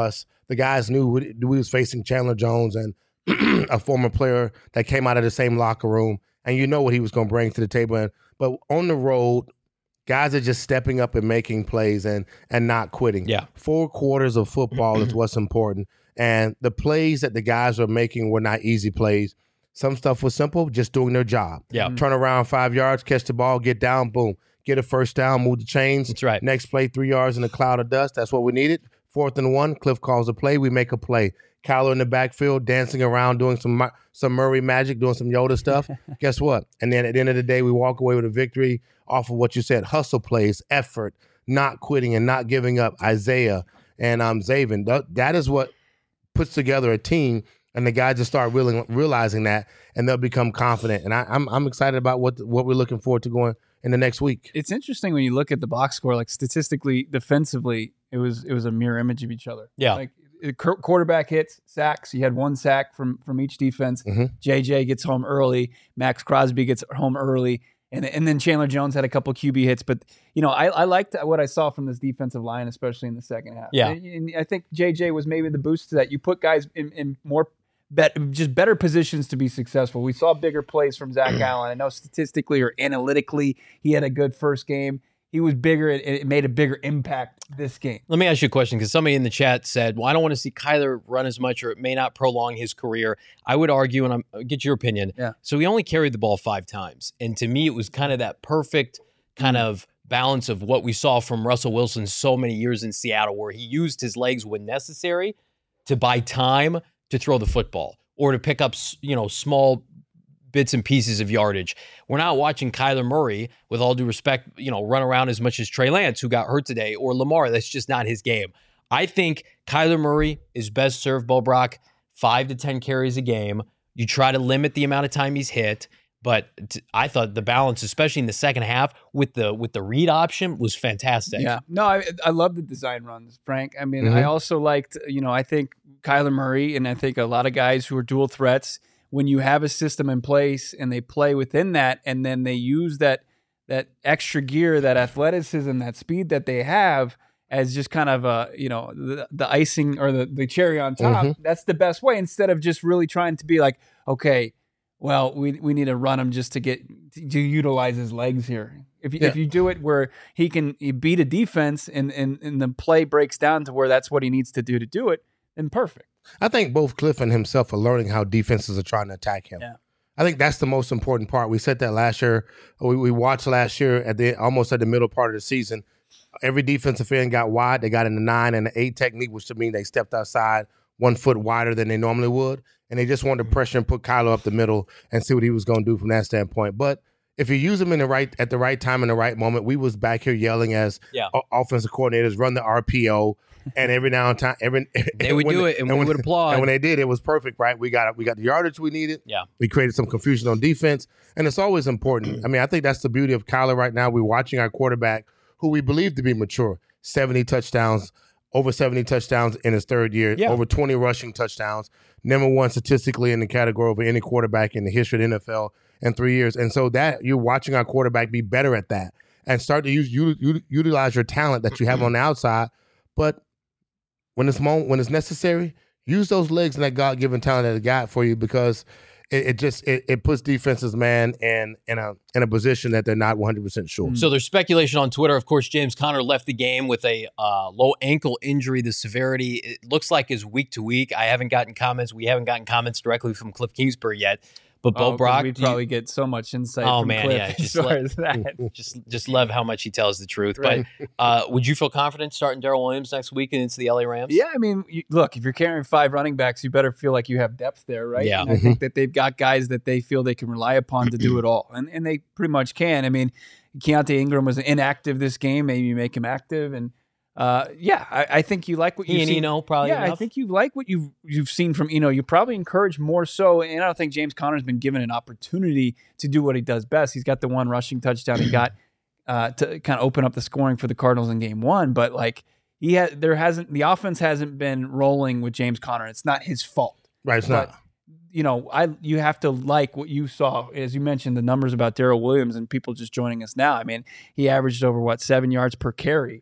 [SPEAKER 3] the guys knew we, we was facing Chandler Jones and a former player that came out of the same locker room, and you know what he was going to bring to the table. And, but on the road, guys are just stepping up and making plays and and not quitting.
[SPEAKER 1] Yeah.
[SPEAKER 3] Four quarters of football is what's important. And the plays that the guys were making were not easy plays. Some stuff was simple, just doing their job.
[SPEAKER 1] Yeah.
[SPEAKER 3] Turn around five yards, catch the ball, get down, boom. Get a first down, move the chains.
[SPEAKER 1] That's right.
[SPEAKER 3] Next play, three yards in a cloud of dust. That's what we needed. Fourth and one, Cliff calls a play. We make a play. Kyler in the backfield, dancing around, doing some some Murray magic, doing some Yoda stuff. Guess what? And then at the end of the day, we walk away with a victory off of what you said, hustle plays, effort, not quitting and not giving up. Isaiah and um, Zaven, that, that is what puts together a team, and the guys just start really, realizing that, and they'll become confident. And I, I'm I'm excited about what what we're looking forward to going in the next week.
[SPEAKER 2] It's interesting when you look at the box score, like statistically, defensively, it was it was a mirror image of each other.
[SPEAKER 1] Yeah.
[SPEAKER 2] Like it, quarterback hits, sacks. You had one sack from from each defense.
[SPEAKER 3] Mm-hmm.
[SPEAKER 2] J J gets home early. Max Crosby gets home early. And and then Chandler Jones had a couple Q B hits. But, you know, I, I liked what I saw from this defensive line, especially in the second half.
[SPEAKER 1] Yeah.
[SPEAKER 2] And, and I think J J was maybe the boost to that. You put guys in, in more bet, just better positions to be successful. We saw bigger plays from Zach Allen. I know statistically or analytically he had a good first game. He was bigger. It, it made a bigger impact this game.
[SPEAKER 1] Let me ask you a question, because somebody in the chat said, well, I don't want to see Kyler run as much, or it may not prolong his career. I would argue, and I'm, I'll get your opinion.
[SPEAKER 2] Yeah.
[SPEAKER 1] So he only carried the ball five times. And to me, it was kind of that perfect kind of balance of what we saw from Russell Wilson so many years in Seattle, where he used his legs when necessary to buy time to throw the football or to pick up, you know, small bits and pieces of yardage. We're not watching Kyler Murray, with all due respect, you know, run around as much as Trey Lance, who got hurt today, or Lamar. That's just not his game. I think Kyler Murray is best served, Bo Brock, five to ten carries a game. You try to limit the amount of time he's hit, but t- I thought the balance, especially in the second half with the with the read option, was fantastic.
[SPEAKER 2] Yeah. No, I I love the design runs, Frank. I mean,
[SPEAKER 3] Mm-hmm.
[SPEAKER 2] I also liked, you know, I think Kyler Murray, and I think a lot of guys who are dual threats, when you have a system in place and they play within that, and then they use that that extra gear, that athleticism, that speed that they have as just kind of a, you know, the, the icing or the, the cherry on top,
[SPEAKER 3] Mm-hmm.
[SPEAKER 2] that's the best way, instead of just really trying to be like, okay, well, we we need to run him just to get to utilize his legs here. If you,
[SPEAKER 3] Yeah.
[SPEAKER 2] if you do it where he can beat a defense and, and, and the play breaks down to where that's what he needs to do to do it, then perfect.
[SPEAKER 3] I think both Cliff and himself are learning how defenses are trying to attack him.
[SPEAKER 2] Yeah.
[SPEAKER 3] I think that's the most important part. We said that last year. We, we watched last year at the almost at the middle part of the season. Every defensive end got wide. They got in the nine and the eight technique, which to me they stepped outside one foot wider than they normally would, and they just wanted to pressure and put Kyler up the middle and see what he was going to do from that standpoint. But if you use him in the right at the right time in the right moment, we was back here yelling as
[SPEAKER 1] Yeah.
[SPEAKER 3] o- offensive coordinators, run the R P O. And every now and time, every
[SPEAKER 1] They would
[SPEAKER 3] when
[SPEAKER 1] do
[SPEAKER 3] they-
[SPEAKER 1] it, and we
[SPEAKER 3] when-
[SPEAKER 1] would applaud.
[SPEAKER 3] And when they did, it was perfect, right? We got we got the yardage we needed.
[SPEAKER 1] Yeah.
[SPEAKER 3] We created some confusion on defense, and it's always important. I mean, I think that's the beauty of Kyler right now. We're watching our quarterback, who we believe to be mature, seventy touchdowns, over seventy touchdowns in his third year,
[SPEAKER 1] Yeah.
[SPEAKER 3] over twenty rushing touchdowns, number one statistically in the category of any quarterback in the history of the N F L in three years. And so that you're watching our quarterback be better at that and start to use u- u- utilize your talent that you have on the outside, but when it's moment, when it's necessary, use those legs and that God-given talent that it got for you, because it, it just it, it puts defenses, man, in in a in a position that they're not one hundred percent sure.
[SPEAKER 1] So there's speculation on Twitter. Of course, James Conner left the game with a uh, low ankle injury. The severity, it looks like, is week to week. I haven't gotten comments. We haven't gotten comments directly from Cliff Kingsbury yet. But Bo
[SPEAKER 2] Oh, 'cause
[SPEAKER 1] Brock,
[SPEAKER 2] we'd
[SPEAKER 1] do you-
[SPEAKER 2] probably get so much insight
[SPEAKER 1] Oh,
[SPEAKER 2] from
[SPEAKER 1] man,
[SPEAKER 2] Cliff
[SPEAKER 1] yeah,
[SPEAKER 2] as
[SPEAKER 1] just
[SPEAKER 2] far
[SPEAKER 1] let-
[SPEAKER 2] as that.
[SPEAKER 1] just just love how much he tells the truth.
[SPEAKER 2] Right.
[SPEAKER 1] But uh, would you feel confident starting Darrell Williams next week against the L A Rams?
[SPEAKER 2] Yeah, I mean, you, look, if you're carrying five running backs, you better feel like you have depth there, right?
[SPEAKER 1] Yeah.
[SPEAKER 2] And I think that they've got guys that they feel they can rely upon to do it all, and and they pretty much can. I mean, Keontae Ingram was inactive this game. Maybe you make him active, and uh, yeah, I, I think you like what
[SPEAKER 1] He
[SPEAKER 2] you've
[SPEAKER 1] and
[SPEAKER 2] seen.
[SPEAKER 1] Eno probably
[SPEAKER 2] yeah, I
[SPEAKER 1] enough.
[SPEAKER 2] think you like what you've you've seen from Eno. You probably encourage more so, and I don't think James Conner's been given an opportunity to do what he does best. He's got the one rushing touchdown he got uh, to kind of open up the scoring for the Cardinals in Game One, but like he had, there hasn't the offense hasn't been rolling with James Conner. It's not his fault,
[SPEAKER 3] Right, it's
[SPEAKER 2] but
[SPEAKER 3] not.
[SPEAKER 2] you know, I you have to like what you saw, as you mentioned, the numbers about Darrell Williams and people just joining us now. I mean, he averaged over what seven yards per carry.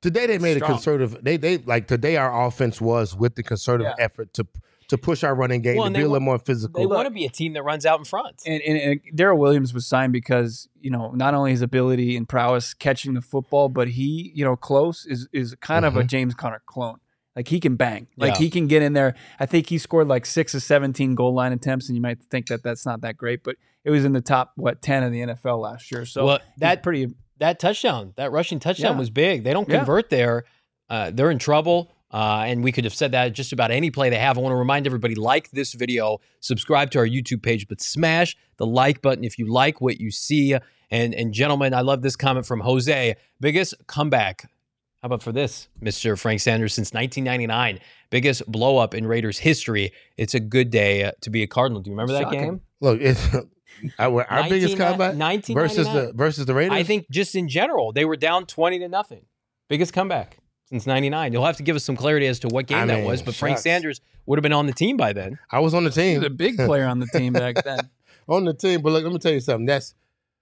[SPEAKER 3] Today they made
[SPEAKER 2] Strong.
[SPEAKER 3] a conservative. They they like today our offense was with the conservative
[SPEAKER 2] Yeah.
[SPEAKER 3] effort to to push our running game
[SPEAKER 1] Well,
[SPEAKER 3] to
[SPEAKER 1] and
[SPEAKER 3] be
[SPEAKER 1] they
[SPEAKER 3] a little
[SPEAKER 1] wa-
[SPEAKER 3] more
[SPEAKER 1] They
[SPEAKER 3] physical.
[SPEAKER 1] want to be a team that runs out in front.
[SPEAKER 2] And, and, and Darrell Williams was signed because, you know, not only his ability and prowess catching the football, but he, you know, close is is kind of a
[SPEAKER 3] Mhm.
[SPEAKER 2] James Conner clone. Like he can bang. Like
[SPEAKER 1] Yeah.
[SPEAKER 2] he can get in there. I think he scored like six or seventeen goal line attempts, and you might think that that's not that great, but it was in the top, what, ten of the N F L last year. So
[SPEAKER 1] Well,
[SPEAKER 2] he's
[SPEAKER 1] that-
[SPEAKER 2] pretty.
[SPEAKER 1] That touchdown, that rushing touchdown
[SPEAKER 2] Yeah.
[SPEAKER 1] was big. They don't
[SPEAKER 2] Yeah.
[SPEAKER 1] convert there. Uh, they're in trouble. Uh, and we could have said that just about any play they have. I want to remind everybody, like this video, subscribe to our YouTube page, but smash the like button if you like what you see. And, and gentlemen, I love this comment from Jose. Biggest comeback. How about for this, Mister Frank Sanders, since nineteen ninety-nine? Biggest blow up in Raiders history. It's a good day uh, to be a Cardinal. Do you remember that
[SPEAKER 2] Shocking.
[SPEAKER 1] game?
[SPEAKER 3] Look, it's our, our biggest comeback
[SPEAKER 1] nineteen
[SPEAKER 3] versus
[SPEAKER 1] ninety-nine.
[SPEAKER 3] the versus the Raiders.
[SPEAKER 1] I think just in general, they were down twenty to nothing. Biggest comeback since ninety-nine. You'll have to give us some clarity as to what game
[SPEAKER 3] I
[SPEAKER 1] that
[SPEAKER 3] mean,
[SPEAKER 1] was, but Frank
[SPEAKER 3] shucks.
[SPEAKER 1] Sanders would have been on the team by then.
[SPEAKER 3] I was on the
[SPEAKER 2] He
[SPEAKER 3] team.
[SPEAKER 2] was a big player on the team back then.
[SPEAKER 3] on the team. But look, let me tell you something. That's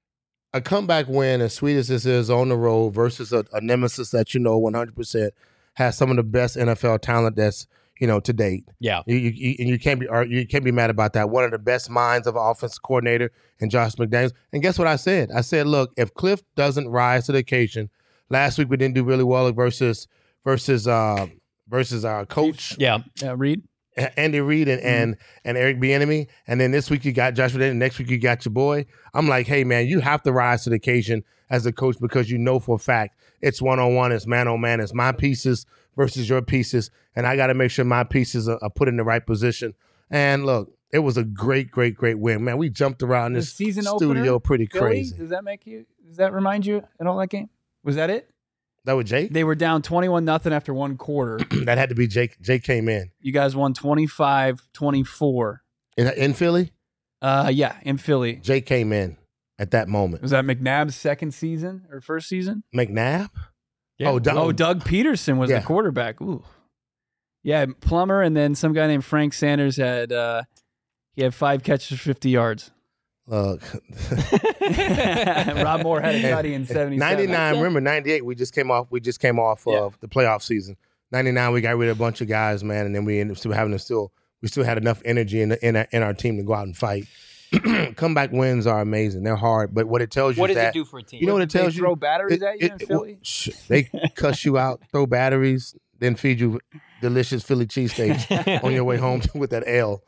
[SPEAKER 3] a comeback win, as sweet as this is, on the road versus a, a nemesis that you know one hundred percent has some of the best N F L talent that's you know to date.
[SPEAKER 1] Yeah.
[SPEAKER 3] You, you, you- and you can't be or you can't be mad about that. One of the best minds of an offensive coordinator and Josh McDaniels. And guess what I said? I said, look, if Cliff doesn't rise to the occasion, last week we didn't do really well versus versus uh, versus our coach.
[SPEAKER 1] Yeah.
[SPEAKER 2] Yeah, Reed.
[SPEAKER 3] Andy Reid and, and and Eric Bieniemy, and then this week you got Josh McDaniels, next week you got your boy. I'm like, hey man, you have to rise to the occasion as a coach because you know for a fact it's one on one, it's man on man, it's my pieces versus your pieces, and I got to make sure my pieces are, are put in the right position. And look, it was a great, great, great win, man. We jumped around
[SPEAKER 2] The
[SPEAKER 3] this
[SPEAKER 2] season
[SPEAKER 3] studio
[SPEAKER 2] opener,
[SPEAKER 3] pretty
[SPEAKER 2] Philly?
[SPEAKER 3] crazy.
[SPEAKER 2] Does that make you? Does that remind you at all that game? Was that it?
[SPEAKER 3] That was Jake.
[SPEAKER 2] They were down twenty-one nothing after one quarter.
[SPEAKER 3] That had to be Jake. Jake came in
[SPEAKER 2] You guys won twenty-five twenty-four.
[SPEAKER 3] in, in Philly.
[SPEAKER 2] Uh, yeah, in Philly.
[SPEAKER 3] Jake came in at that moment.
[SPEAKER 2] Was that McNabb's second season or first season?
[SPEAKER 3] McNabb.
[SPEAKER 1] Yeah.
[SPEAKER 3] Oh, Doug-
[SPEAKER 2] Oh, Doug Peterson was
[SPEAKER 3] Yeah.
[SPEAKER 2] the quarterback. Ooh. Yeah, Plummer, and then some guy named Frank Sanders had uh, he had five catches for fifty yards.
[SPEAKER 3] Look,
[SPEAKER 2] Rob Moore had a tutty in seventy-seven.
[SPEAKER 3] ninety-nine. Remember, ninety-eight. We just came off. We just came off
[SPEAKER 2] Yeah.
[SPEAKER 3] of the playoff season. ninety-nine. We got rid of a bunch of guys, man, and then we ended up still having to still. We still had enough energy in the, in, our, in our team to go out and fight. Comeback wins are amazing. They're hard, but what it tells you
[SPEAKER 1] What
[SPEAKER 3] is
[SPEAKER 1] does
[SPEAKER 3] that
[SPEAKER 1] it do for a team?
[SPEAKER 3] you know what it
[SPEAKER 2] They
[SPEAKER 3] tells you.
[SPEAKER 2] throw batteries
[SPEAKER 3] It-
[SPEAKER 2] at you
[SPEAKER 3] it-
[SPEAKER 2] in
[SPEAKER 3] it-
[SPEAKER 2] Philly?
[SPEAKER 3] sh- they cuss you out, throw batteries, then feed you delicious Philly cheesesteaks on your way home with that L.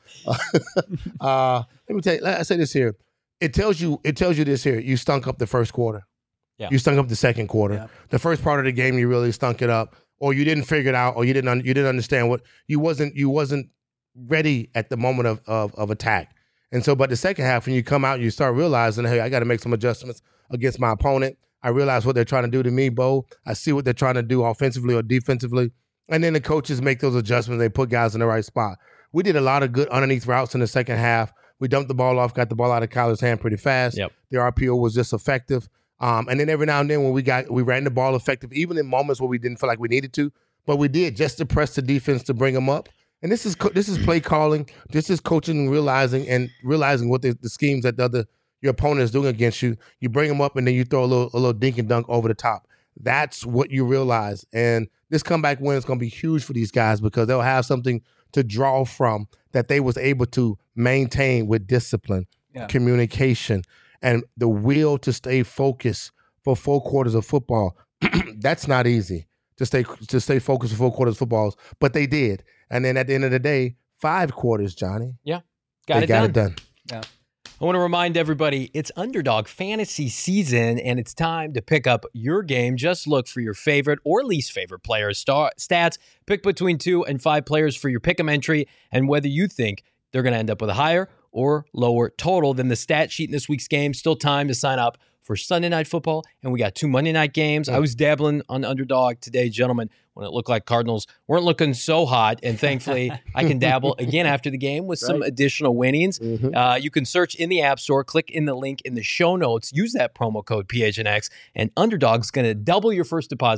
[SPEAKER 3] uh, let me tell you. I say this here. It tells you. It tells you this here. You stunk up the first quarter.
[SPEAKER 1] Yeah.
[SPEAKER 3] You stunk up the second quarter.
[SPEAKER 2] Yeah.
[SPEAKER 3] The first part of the game, you really stunk it up, or you didn't figure it out, or you didn't. Un- you didn't understand what you wasn't. You wasn't ready at the moment of of, of attack. And so, but the second half, when you come out, you start realizing, hey, I got to make some adjustments against my opponent. I realize what they're trying to do to me, Bo. I see what they're trying to do offensively or defensively. And then the coaches make those adjustments. They put guys in the right spot. We did a lot of good underneath routes in the second half. We dumped the ball off, got the ball out of Kyler's hand pretty fast.
[SPEAKER 1] Yep.
[SPEAKER 3] The R P O was just effective. Um, and then every now and then when we got, we ran the ball effective, even in moments where we didn't feel like we needed to, but we did just to press the defense to bring them up. And this is co- this is play calling. This is coaching and realizing and realizing what the, the schemes that the other your opponent is doing against you. You bring them up and then you throw a little a little dink and dunk over the top. That's what you realize. And this comeback win is going to be huge for these guys because they'll have something to draw from that they was able to maintain with discipline,
[SPEAKER 2] Yeah.
[SPEAKER 3] communication, and the will to stay focused for four quarters of football. That's not easy to stay to stay focused for four quarters of footballs, but they did. And then at the end of the day, five quarters, Johnny.
[SPEAKER 1] Got
[SPEAKER 3] they
[SPEAKER 1] it
[SPEAKER 3] got
[SPEAKER 1] done.
[SPEAKER 3] it done.
[SPEAKER 1] I want to remind everybody it's Underdog Fantasy season, and it's time to pick up your game. Just look for your favorite or least favorite players' star- stats. Pick between two and five players for your pick'em entry, and whether you think they're going to end up with a higher or lower total than the stat sheet in this week's game. Still time to sign up for Sunday Night Football, and we got two Monday night games. I was dabbling on Underdog today, gentlemen, when it looked like Cardinals weren't looking so hot, and thankfully I can dabble again after the game with some
[SPEAKER 2] Right.
[SPEAKER 1] additional winnings.
[SPEAKER 3] Mhm.
[SPEAKER 1] Uh, you can search in the App Store, click in the link in the show notes, use that promo code P H N X, and Underdog's going to double your first deposit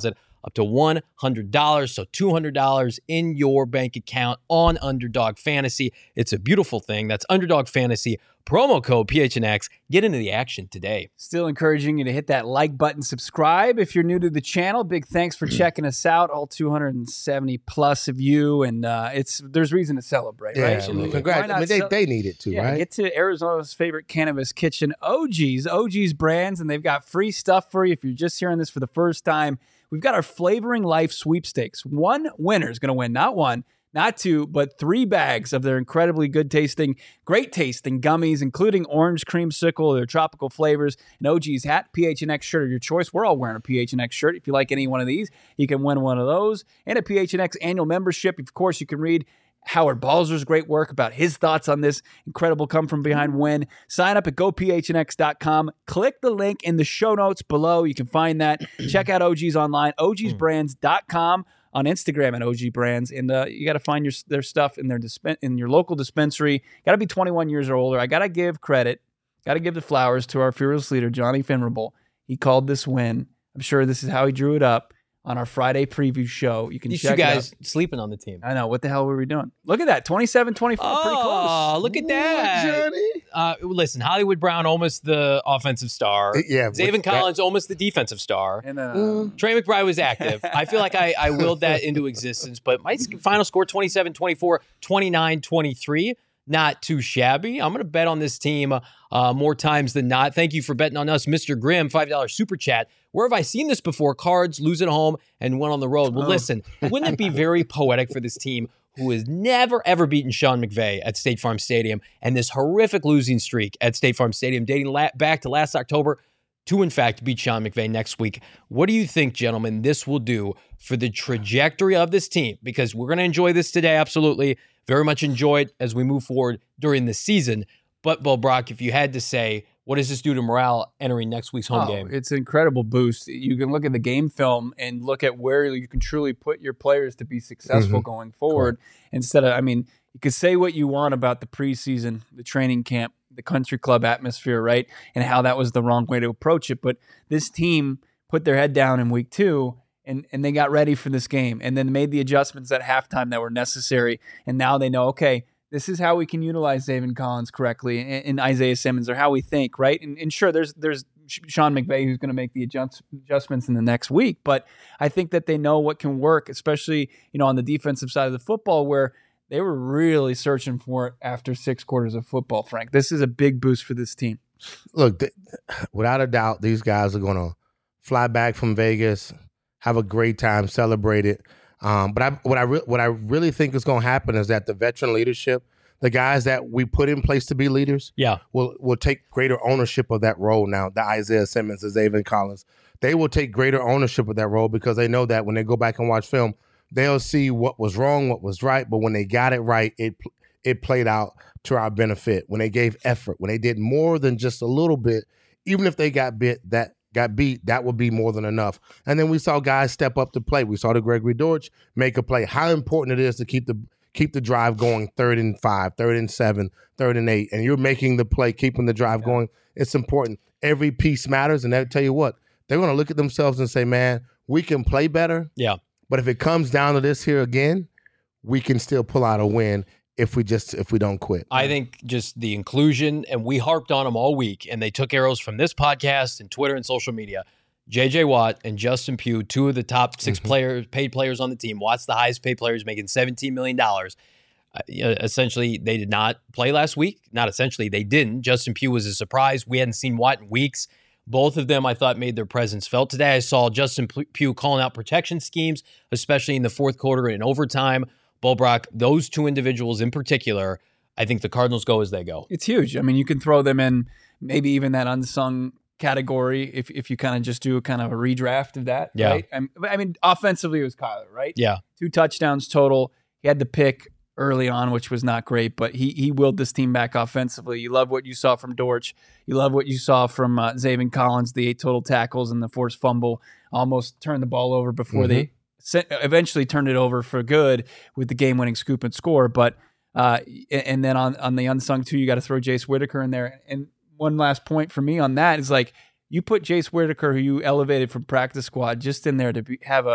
[SPEAKER 1] up to one hundred dollars. So two hundred dollars in your bank account on Underdog Fantasy. It's a beautiful thing. That's Underdog Fantasy. Promo code P H N X. Get into the action today.
[SPEAKER 2] Still encouraging you to hit that like button, subscribe if you're new to the channel. Big thanks for checking us out, all two hundred seventy plus of you, and uh, it's there's reason to celebrate,
[SPEAKER 3] Yeah,
[SPEAKER 2] right?
[SPEAKER 3] well, congrats. I mean, they, they need it too,
[SPEAKER 2] yeah,
[SPEAKER 3] right?
[SPEAKER 2] Get to Arizona's favorite cannabis kitchen, O G's, O G's Brands, and they've got free stuff for you if you're just hearing this for the first time. We've got our Flavoring Life sweepstakes. One winner is going to win, not one, not two, but three bags of their incredibly good tasting, great tasting gummies, including orange creamsicle, their tropical flavors, an O G's hat, P H N X shirt of your choice. We're all wearing a P H N X shirt. If you like any one of these, you can win one of those. And a P H N X annual membership. Of course, you can read Howard Balzer's great work about his thoughts on this incredible come from behind win. Sign up at go P H N X dot com. Click the link in the show notes below. You can find that. Check out O G's online, O Gs brands dot com. On Instagram at O G Brands, and uh, you got to find your their stuff in their dispen- in your local dispensary. Got to be twenty-one years or older. I got to give credit, got to give the flowers to our fearless leader, Johnny Finrable. He called this win. I'm sure this is how he drew it up on our Friday preview show. You can
[SPEAKER 1] These
[SPEAKER 2] check
[SPEAKER 1] two guys
[SPEAKER 2] it out.
[SPEAKER 1] sleeping on the team.
[SPEAKER 2] I know. What the hell were we doing? Look at that. twenty-seven twenty-four.
[SPEAKER 1] Oh,
[SPEAKER 2] pretty close.
[SPEAKER 1] look at that.
[SPEAKER 3] Johnny.
[SPEAKER 1] Uh, listen, Hollywood Brown, almost the offensive star.
[SPEAKER 3] Yeah,
[SPEAKER 1] Zaven
[SPEAKER 3] that-
[SPEAKER 1] Collins, almost the defensive star.
[SPEAKER 2] And then, uh,
[SPEAKER 3] Mm.
[SPEAKER 1] Trey McBride was active. I feel like I, I willed that into existence, but my final score twenty-seven twenty-four, twenty-nine twenty-three. Not too shabby. I'm going to bet on this team uh, more times than not. Thank you for betting on us, Mister Grimm, five dollars super chat. Where have I seen this before? Cards, lose at home, and win on the road. Well,
[SPEAKER 2] Oh.
[SPEAKER 1] listen, wouldn't it be very poetic for this team who has never, ever beaten Sean McVay at State Farm Stadium and this horrific losing streak at State Farm Stadium dating la- back to last October to, in fact, beat Sean McVay next week? What do you think, gentlemen, this will do for the trajectory of this team? Because we're going to enjoy this today, absolutely. Very much enjoy it as we move forward during the season. But, Bo Brock, if you had to say, what does this do to morale entering next week's home
[SPEAKER 2] oh,
[SPEAKER 1] game?
[SPEAKER 2] It's an incredible boost. You can look at the game film and look at where you can truly put your players to be successful
[SPEAKER 3] Mhm.
[SPEAKER 2] going forward. Instead of, I mean, you could say what you want about the preseason, the training camp, the country club atmosphere, right? And how that was the wrong way to approach it. But this team put their head down in week two and, and they got ready for this game and then made the adjustments at halftime that were necessary. And now they know, okay, this is how we can utilize Zaven Collins correctly and, and Isaiah Simmons, or how we think, right? And, and sure, there's there's Sean McVay who's going to make the adjust, adjustments in the next week, but I think that they know what can work, especially, you know, on the defensive side of the football, where they were really searching for it after six quarters of football. Frank, this is a big boost for this team.
[SPEAKER 3] Look, th- without a doubt, these guys are going to fly back from Vegas, have a great time, celebrate it. Um, but I, what I re- what I really think is going to happen is that the veteran leadership, the guys that we put in place to be leaders,
[SPEAKER 1] Yeah.
[SPEAKER 3] will will take greater ownership of that role now. The Isaiah Simmons, the Zaven Collins, they will take greater ownership of that role because they know that when they go back and watch film, they'll see what was wrong, what was right. But when they got it right, it it played out to our benefit. When they gave effort, when they did more than just a little bit, even if they got bit that. got beat, that would be more than enough. And then we saw guys step up to play. We saw the Gregory Dortch make a play. How important it is to keep the keep the drive going, third and five, third and seven, third and eight, and you're making the play, keeping the drive
[SPEAKER 2] Yeah.
[SPEAKER 3] going. It's important. Every piece matters, and they'll tell you what, they're going to look at themselves and say, man, we can play better,
[SPEAKER 1] Yeah.
[SPEAKER 3] but if it comes down to this here again, we can still pull out a win if we just if we don't quit.
[SPEAKER 1] I think just the inclusion, and we harped on them all week, and they took arrows from this podcast and Twitter and social media. J J Watt and Justin Pugh, two of the top six
[SPEAKER 3] Mhm.
[SPEAKER 1] players, paid players on the team. Watt's the highest paid players, making seventeen million dollars. Uh, essentially, they did not play last week. Not essentially, they didn't. Justin Pugh was a surprise. We hadn't seen Watt in weeks. Both of them, I thought, made their presence felt today. I saw Justin Pugh calling out protection schemes, especially in the fourth quarter and in overtime. Bo Brock, those two individuals in particular, I think the Cardinals go as they go.
[SPEAKER 2] It's huge. I mean, you can throw them in maybe even that unsung category if if you kind of just do a kind of a redraft of that.
[SPEAKER 1] Yeah.
[SPEAKER 2] Right? I mean, I mean, offensively, it was Kyler, right?
[SPEAKER 1] Yeah.
[SPEAKER 2] Two touchdowns total. He had the pick early on, which was not great, but he he willed this team back offensively. You love what you saw from Dortch. You love what you saw from uh, Zaven Collins, the eight total tackles and the forced fumble. Almost turned the ball over before they se- eventually turned it over for good with the game-winning scoop and score. But uh, and then on, on the unsung too, you got to throw Jace Whitaker in there. And one last point for me on that is like you put Jace Whitaker, who you elevated from practice squad, just in there to be, have a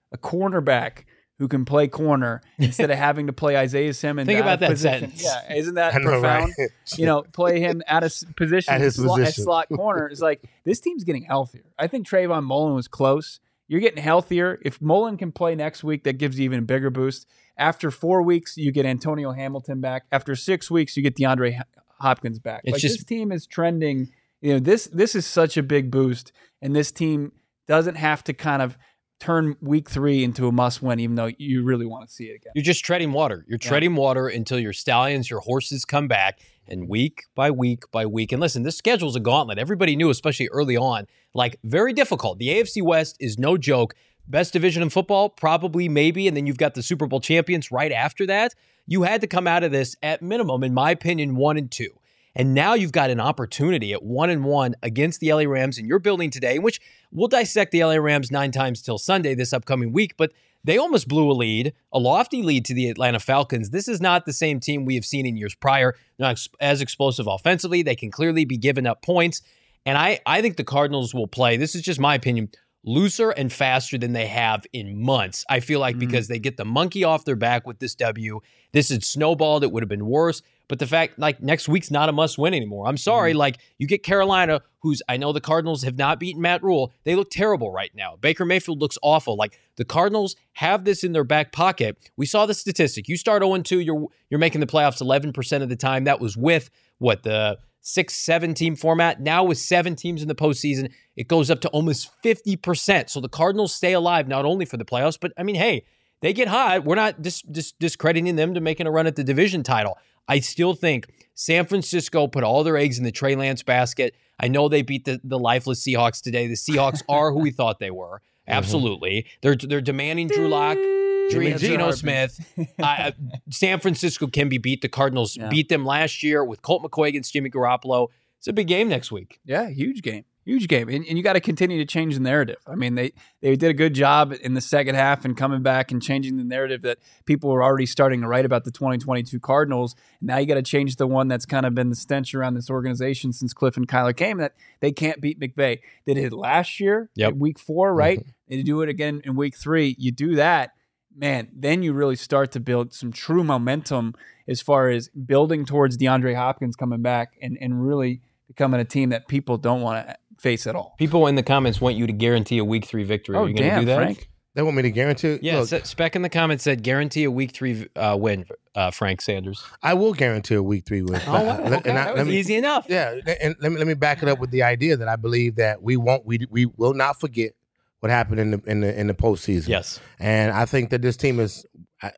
[SPEAKER 2] a cornerback who can play corner instead of having to play Isaiah Simmons.
[SPEAKER 1] Think about that
[SPEAKER 2] position.
[SPEAKER 1] sentence.
[SPEAKER 2] Yeah, isn't that
[SPEAKER 3] I know,
[SPEAKER 2] profound?
[SPEAKER 3] right?
[SPEAKER 2] You know, play him at a s- position,
[SPEAKER 3] At his
[SPEAKER 2] slot,
[SPEAKER 3] position.
[SPEAKER 2] at slot corner. It's like this team's getting healthier. I think Trayvon Mullen was close. You're getting healthier. If Mullen can play next week, that gives you even a bigger boost. After four weeks, you get Antonio Hamilton back. After six weeks, you get DeAndre Hopkins back.
[SPEAKER 1] It's
[SPEAKER 2] like
[SPEAKER 1] just-
[SPEAKER 2] this team is trending. You know, this this is such a big boost, and this team doesn't have to kind of turn week three into a must-win, even though you really want to see it again.
[SPEAKER 1] You're just treading water. You're
[SPEAKER 2] Yeah.
[SPEAKER 1] treading water until your stallions, your horses come back, and week by week by week. And listen, this schedule's a gauntlet. Everybody knew, especially early on, like very difficult. The A F C West is no joke. Best division in football, probably, maybe, and then you've got the Super Bowl champions right after that. You had to come out of this at minimum, in my opinion, one and two. And now you've got an opportunity at one and one against the L A Rams, and you're building today, which we'll dissect the L A Rams nine times till Sunday this upcoming week. But they almost blew a lead, a lofty lead to the Atlanta Falcons. This is not the same team we have seen in years prior. They're not as explosive offensively. They can clearly be giving up points. And I, I think the Cardinals will play, this is just my opinion, looser and faster than they have in months. I feel like
[SPEAKER 2] Mm.
[SPEAKER 1] because they get the monkey off their back with this W. This had snowballed. It would have been worse. But the fact, like, next week's not a must-win anymore. I'm sorry.
[SPEAKER 2] Mm-hmm.
[SPEAKER 1] Like, you get Carolina, who's, I know the Cardinals have not beaten Matt Rule. They look terrible right now. Baker Mayfield looks awful. Like, the Cardinals have this in their back pocket. We saw the statistic. You start oh and two, you're you're making the playoffs eleven percent of the time. That was with, what, the six, seven team format. Now with seven teams in the postseason, it goes up to almost fifty percent. So the Cardinals stay alive not only for the playoffs, but, I mean, hey, they get hot. We're not dis- dis- discrediting them to making a run at the division title. I still think San Francisco put all their eggs in the Trey Lance basket. I know they beat the, the lifeless Seahawks today. The Seahawks are who we thought they were. Absolutely. Mm-hmm. They're they're demanding Drew Lock,
[SPEAKER 3] Jimmy G.
[SPEAKER 1] Geno Smith. uh, San Francisco can be beat. The Cardinals
[SPEAKER 2] Yeah.
[SPEAKER 1] beat them last year with Colt McCoy against Jimmy Garoppolo. It's a big game next week.
[SPEAKER 2] Yeah, huge game. Huge game. And, and you got to continue to change the narrative. I mean, they, they did a good job in the second half and coming back and changing the narrative that people were already starting to write about the twenty twenty-two Cardinals. Now you got to change the one that's kind of been the stench around this organization since Cliff and Kyler came, that they can't beat McVay. They did it last year,
[SPEAKER 1] Yep.
[SPEAKER 2] in week four, right?
[SPEAKER 3] Mm-hmm.
[SPEAKER 2] They do it again in week three. You do that, man, then you really start to build some true momentum as far as building towards DeAndre Hopkins coming back and, and really becoming a team that people don't want to face at all.
[SPEAKER 1] People in the comments want you to guarantee a week three victory.
[SPEAKER 2] Oh,
[SPEAKER 1] Are you going to
[SPEAKER 2] damn,
[SPEAKER 1] do that?
[SPEAKER 2] Frank.
[SPEAKER 3] They want me to guarantee it?
[SPEAKER 1] Yeah,
[SPEAKER 3] Look,
[SPEAKER 1] Se- Spec in the comments said guarantee a week three uh, win, uh, Frank Sanders.
[SPEAKER 3] I will guarantee a week three win.
[SPEAKER 1] Oh, wow.
[SPEAKER 3] Let-
[SPEAKER 1] Okay.
[SPEAKER 3] and I-
[SPEAKER 1] That
[SPEAKER 3] let
[SPEAKER 1] was
[SPEAKER 3] me-
[SPEAKER 1] easy enough.
[SPEAKER 3] Yeah, and let me let me back it up with the idea that I believe that we won't we we will not forget what happened in the in the in the postseason.
[SPEAKER 1] Yes.
[SPEAKER 3] And I think that this team is I,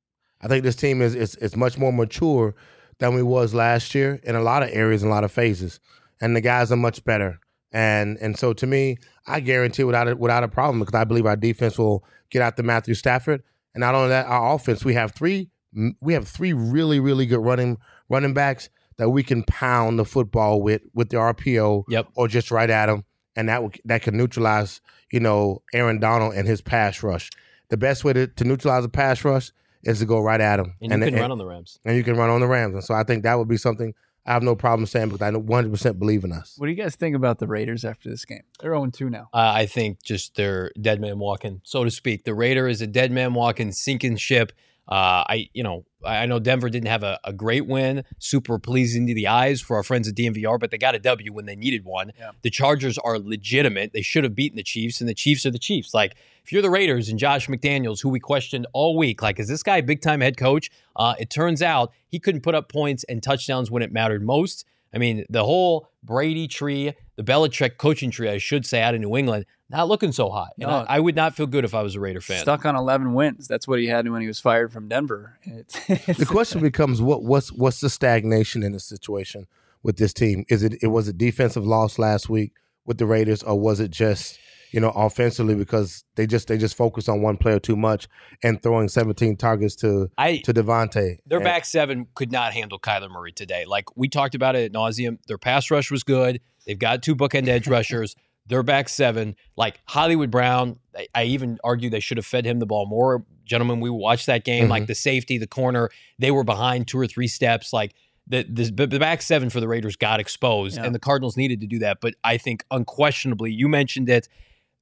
[SPEAKER 3] I think this team is, is is much more mature than we was last year in a lot of areas and a lot of phases. And the guys are much better. And and so to me, I guarantee without a, without a problem because I believe our defense will get out to Matthew Stafford. And not only that, our offense, we have three we have three really really good running running backs that we can pound the football with with the R P O
[SPEAKER 1] Yep.
[SPEAKER 3] or just right at them, and that will- that can neutralize you know Aaron Donald and his pass rush. The best way to, to neutralize a pass rush is to go right at him,
[SPEAKER 1] And you can run on the Rams.
[SPEAKER 3] and you can run on the Rams. And so I think that would be something I have no problem saying because I one hundred percent believe in us.
[SPEAKER 2] What do you guys think about the Raiders after this game? They're oh and two now.
[SPEAKER 1] Uh, I think just they're dead man walking, so to speak. The Raider is a dead man walking, sinking ship. Uh, I, you know, I know Denver didn't have a, a great win, super pleasing to the eyes for our friends at D M V R, but they got a W when they needed one.
[SPEAKER 2] Yeah.
[SPEAKER 1] The Chargers are legitimate. They should have beaten the Chiefs, and the Chiefs are the Chiefs. Like, if you're the Raiders and Josh McDaniels, who we questioned all week, like, is this guy a big-time head coach? Uh, it turns out he couldn't put up points and touchdowns when it mattered most. I mean, the whole Brady tree, the Belichick coaching tree, I should say, out of New England, not looking so hot. And
[SPEAKER 2] No.
[SPEAKER 1] I, I would not feel good if I was a Raider fan.
[SPEAKER 2] Stuck on eleven wins. That's what he had when he was fired from Denver. It's, it's,
[SPEAKER 3] The question becomes what what's what's the stagnation in the situation with this team? Is it it was a defensive loss last week with the Raiders, or was it just you know offensively because they just they just focused on one player too much and throwing seventeen targets to
[SPEAKER 1] I
[SPEAKER 3] to Devontae?
[SPEAKER 1] Their
[SPEAKER 3] And-
[SPEAKER 1] back seven could not handle Kyler Murray today. Like, we talked about it ad nauseum. Their pass rush was good. They've got two bookend edge rushers. Their back seven, like Hollywood Brown, I, I even argue they should have fed him the ball more. Gentlemen, we watched that game.
[SPEAKER 3] Mhm.
[SPEAKER 1] Like, the safety, the corner, they were behind two or three steps. Like, the, the, the back seven for the Raiders got exposed,
[SPEAKER 2] Yeah.
[SPEAKER 1] and the Cardinals needed to do that. But I think unquestionably, you mentioned it,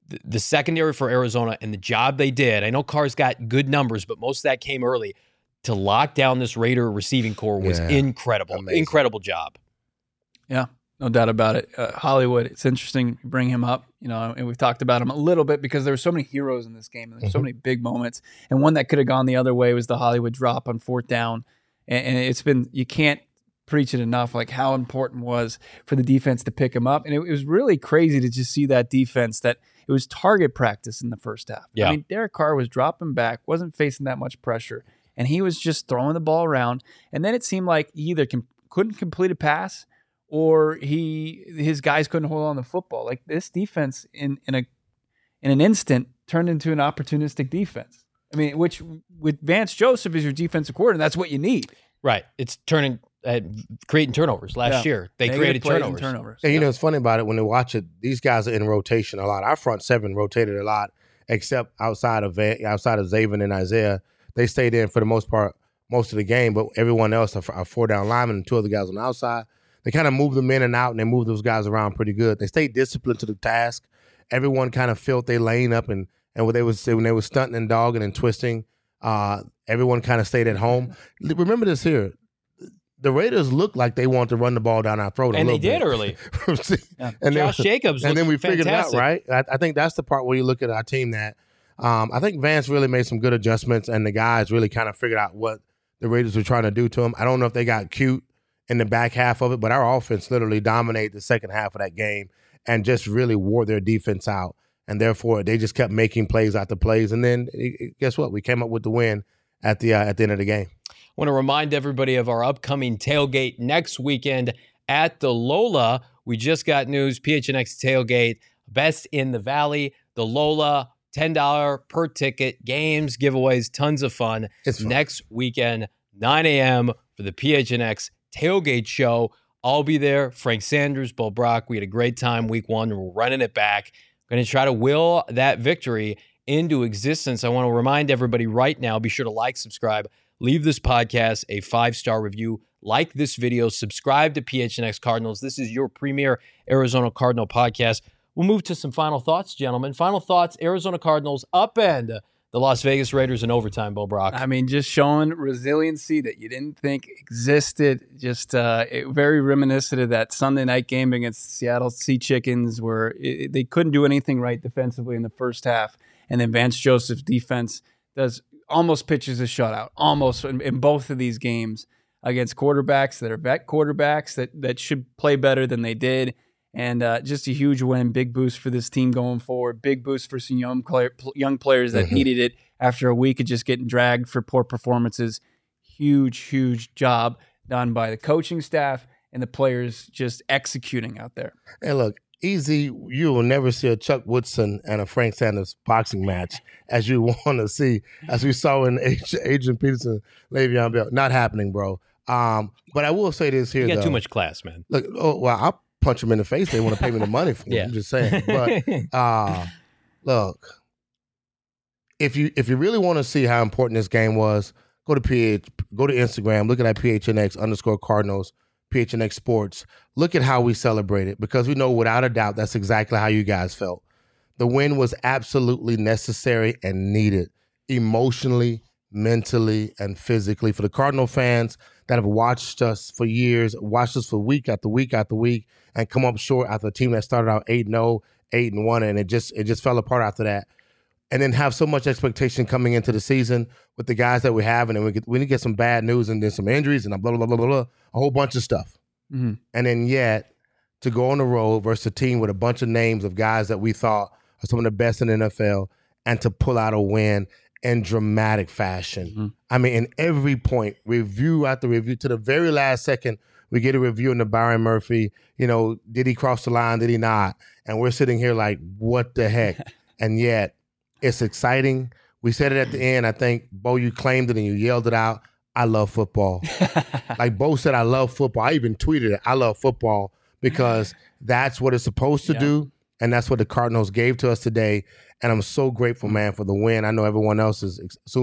[SPEAKER 1] the, the secondary for Arizona and the job they did. I know Carr's got good numbers, but most of that came early. To lock down this Raider receiving core was
[SPEAKER 3] Yeah,
[SPEAKER 1] incredible.
[SPEAKER 3] amazing.
[SPEAKER 1] Incredible job.
[SPEAKER 2] Yeah, no doubt about it. Uh, Hollywood, it's interesting you bring him up, you know, and we've talked about him a little bit because there were so many heroes in this game and there's so
[SPEAKER 3] Mhm.
[SPEAKER 2] many big moments. And one that could have gone the other way was the Hollywood drop on fourth down. And, and it's been, you can't preach it enough, like how important it was for the defense to pick him up. And it, it was really crazy to just see that defense that it was target practice in the first half.
[SPEAKER 1] Yeah.
[SPEAKER 2] I mean, Derek Carr was dropping back, wasn't facing that much pressure, and he was just throwing the ball around. And then it seemed like he either com- couldn't complete a pass or he his guys couldn't hold on to the football. Like this defense in in a in an instant turned into an opportunistic defense. I mean, which with Vance Joseph as your defensive coordinator, that's what you need.
[SPEAKER 1] Right. It's turning, uh, creating turnovers. Last
[SPEAKER 2] Yeah.
[SPEAKER 1] year, they
[SPEAKER 2] Negative
[SPEAKER 1] created
[SPEAKER 2] plays and
[SPEAKER 1] turnovers.
[SPEAKER 2] turnovers.
[SPEAKER 3] And you know, it's funny about it when they watch it. These guys are in rotation a lot. Our front seven rotated a lot, except outside of Va- outside of Zaven and Isaiah, they stayed in for the most part most of the game. But everyone else are, are four down linemen and two other guys on the outside. They kind of move them in and out, and they move those guys around pretty good. They stayed disciplined to the task. Everyone kind of filled their lane up, and and when they was when they were stunting and dogging and twisting, uh, everyone kind of stayed at home. Remember this here. The Raiders looked like they wanted to run the ball down our throat, a
[SPEAKER 1] And they
[SPEAKER 3] little
[SPEAKER 1] did
[SPEAKER 3] bit.
[SPEAKER 1] early.
[SPEAKER 2] Yeah.
[SPEAKER 3] and
[SPEAKER 1] Josh
[SPEAKER 3] then,
[SPEAKER 1] Jacobs
[SPEAKER 3] and then we
[SPEAKER 1] looked
[SPEAKER 3] figured
[SPEAKER 1] fantastic.
[SPEAKER 3] it out, right? I, I think that's the part where you look at our team that um, I think Vance really made some good adjustments, and the guys really kind of figured out what the Raiders were trying to do to them. I don't know if they got cute in the back half of it, but our offense literally dominated the second half of that game and just really wore their defense out. And therefore, they just kept making plays after plays. And then, guess what? We came up with the win at the uh, at the end of the game.
[SPEAKER 1] I want to remind everybody of our upcoming tailgate next weekend at the Lola. We just got news, P H N X tailgate, best in the Valley. The Lola, ten dollars per ticket, games, giveaways, tons of fun.
[SPEAKER 3] It's fun.
[SPEAKER 1] Next weekend, nine a.m. for the P H N X tailgate show. I'll be there. Frank Sanders, Bo Brock. We had a great time week one, and we're running it back. Going to try to will that victory into existence. I want to remind everybody right now, be sure to like, subscribe, leave this podcast a five-star review, like this video, subscribe to P H N X Cardinals. This is your premier Arizona Cardinal podcast. We'll move to some final thoughts, gentlemen. Final thoughts, Arizona Cardinals upend the Las Vegas Raiders in overtime, Bo Brock.
[SPEAKER 2] I mean, just showing resiliency that you didn't think existed. Just uh, it, very reminiscent of that Sunday night game against Seattle Sea Chickens, where it, they couldn't do anything right defensively in the first half, and then Vance Joseph's defense does almost pitches a shutout, almost in, in both of these games against quarterbacks that are vet quarterbacks that that should play better than they did. And uh, just a huge win, big boost for this team going forward, big boost for some young, player, young players that
[SPEAKER 3] Mm-hmm.
[SPEAKER 2] needed it after a week of just getting dragged for poor performances. Huge, huge job done by the coaching staff and the players just executing out there.
[SPEAKER 3] Hey, look, easy. You will never see a Chuck Woodson and a Frank Sanders boxing match as you want to see, as we saw in Adrian Peterson, Le'Veon Bell. Not happening, bro. Um, but I will say this here,
[SPEAKER 1] you got
[SPEAKER 3] though.
[SPEAKER 1] too much class, man.
[SPEAKER 3] Look, oh, well, I'll punch them in the face. They want to pay me the money for it.
[SPEAKER 1] Yeah.
[SPEAKER 3] I'm just saying. But uh, look, if you if you really want to see how important this game was, go to P H, go to Instagram, look at that P H N X underscore Cardinals, P H N X Sports. Look at how we celebrated, because we know without a doubt that's exactly how you guys felt. The win was absolutely necessary and needed, emotionally, mentally, and physically. For the Cardinal fans that have watched us for years, watched us for week after week after week, and come up short after a team that started out eight and oh, eight and one, and it just it just fell apart after that. And then have so much expectation coming into the season with the guys that we have, and then we get we need to get some bad news and then some injuries and blah blah blah blah blah, a whole bunch of stuff.
[SPEAKER 2] Mm-hmm.
[SPEAKER 3] And then yet to go on the road versus a team with a bunch of names of guys that we thought are some of the best in the N F L, and to pull out a win in dramatic fashion.
[SPEAKER 2] Mm-hmm.
[SPEAKER 3] I mean, in every point, review after review, to the very last second, we get a review into Byron Murphy. You know, did he cross the line? Did he not? And we're sitting here like, what the heck? And yet, it's exciting. We said it at the end. I think, Bo, you claimed it and you yelled it out. I love football. Like Bo said, I love football. I even tweeted it. I love football because that's what it's supposed to
[SPEAKER 2] Yeah.
[SPEAKER 3] do. And that's what the Cardinals gave to us today. And I'm so grateful, man, for the win. I know everyone else is. So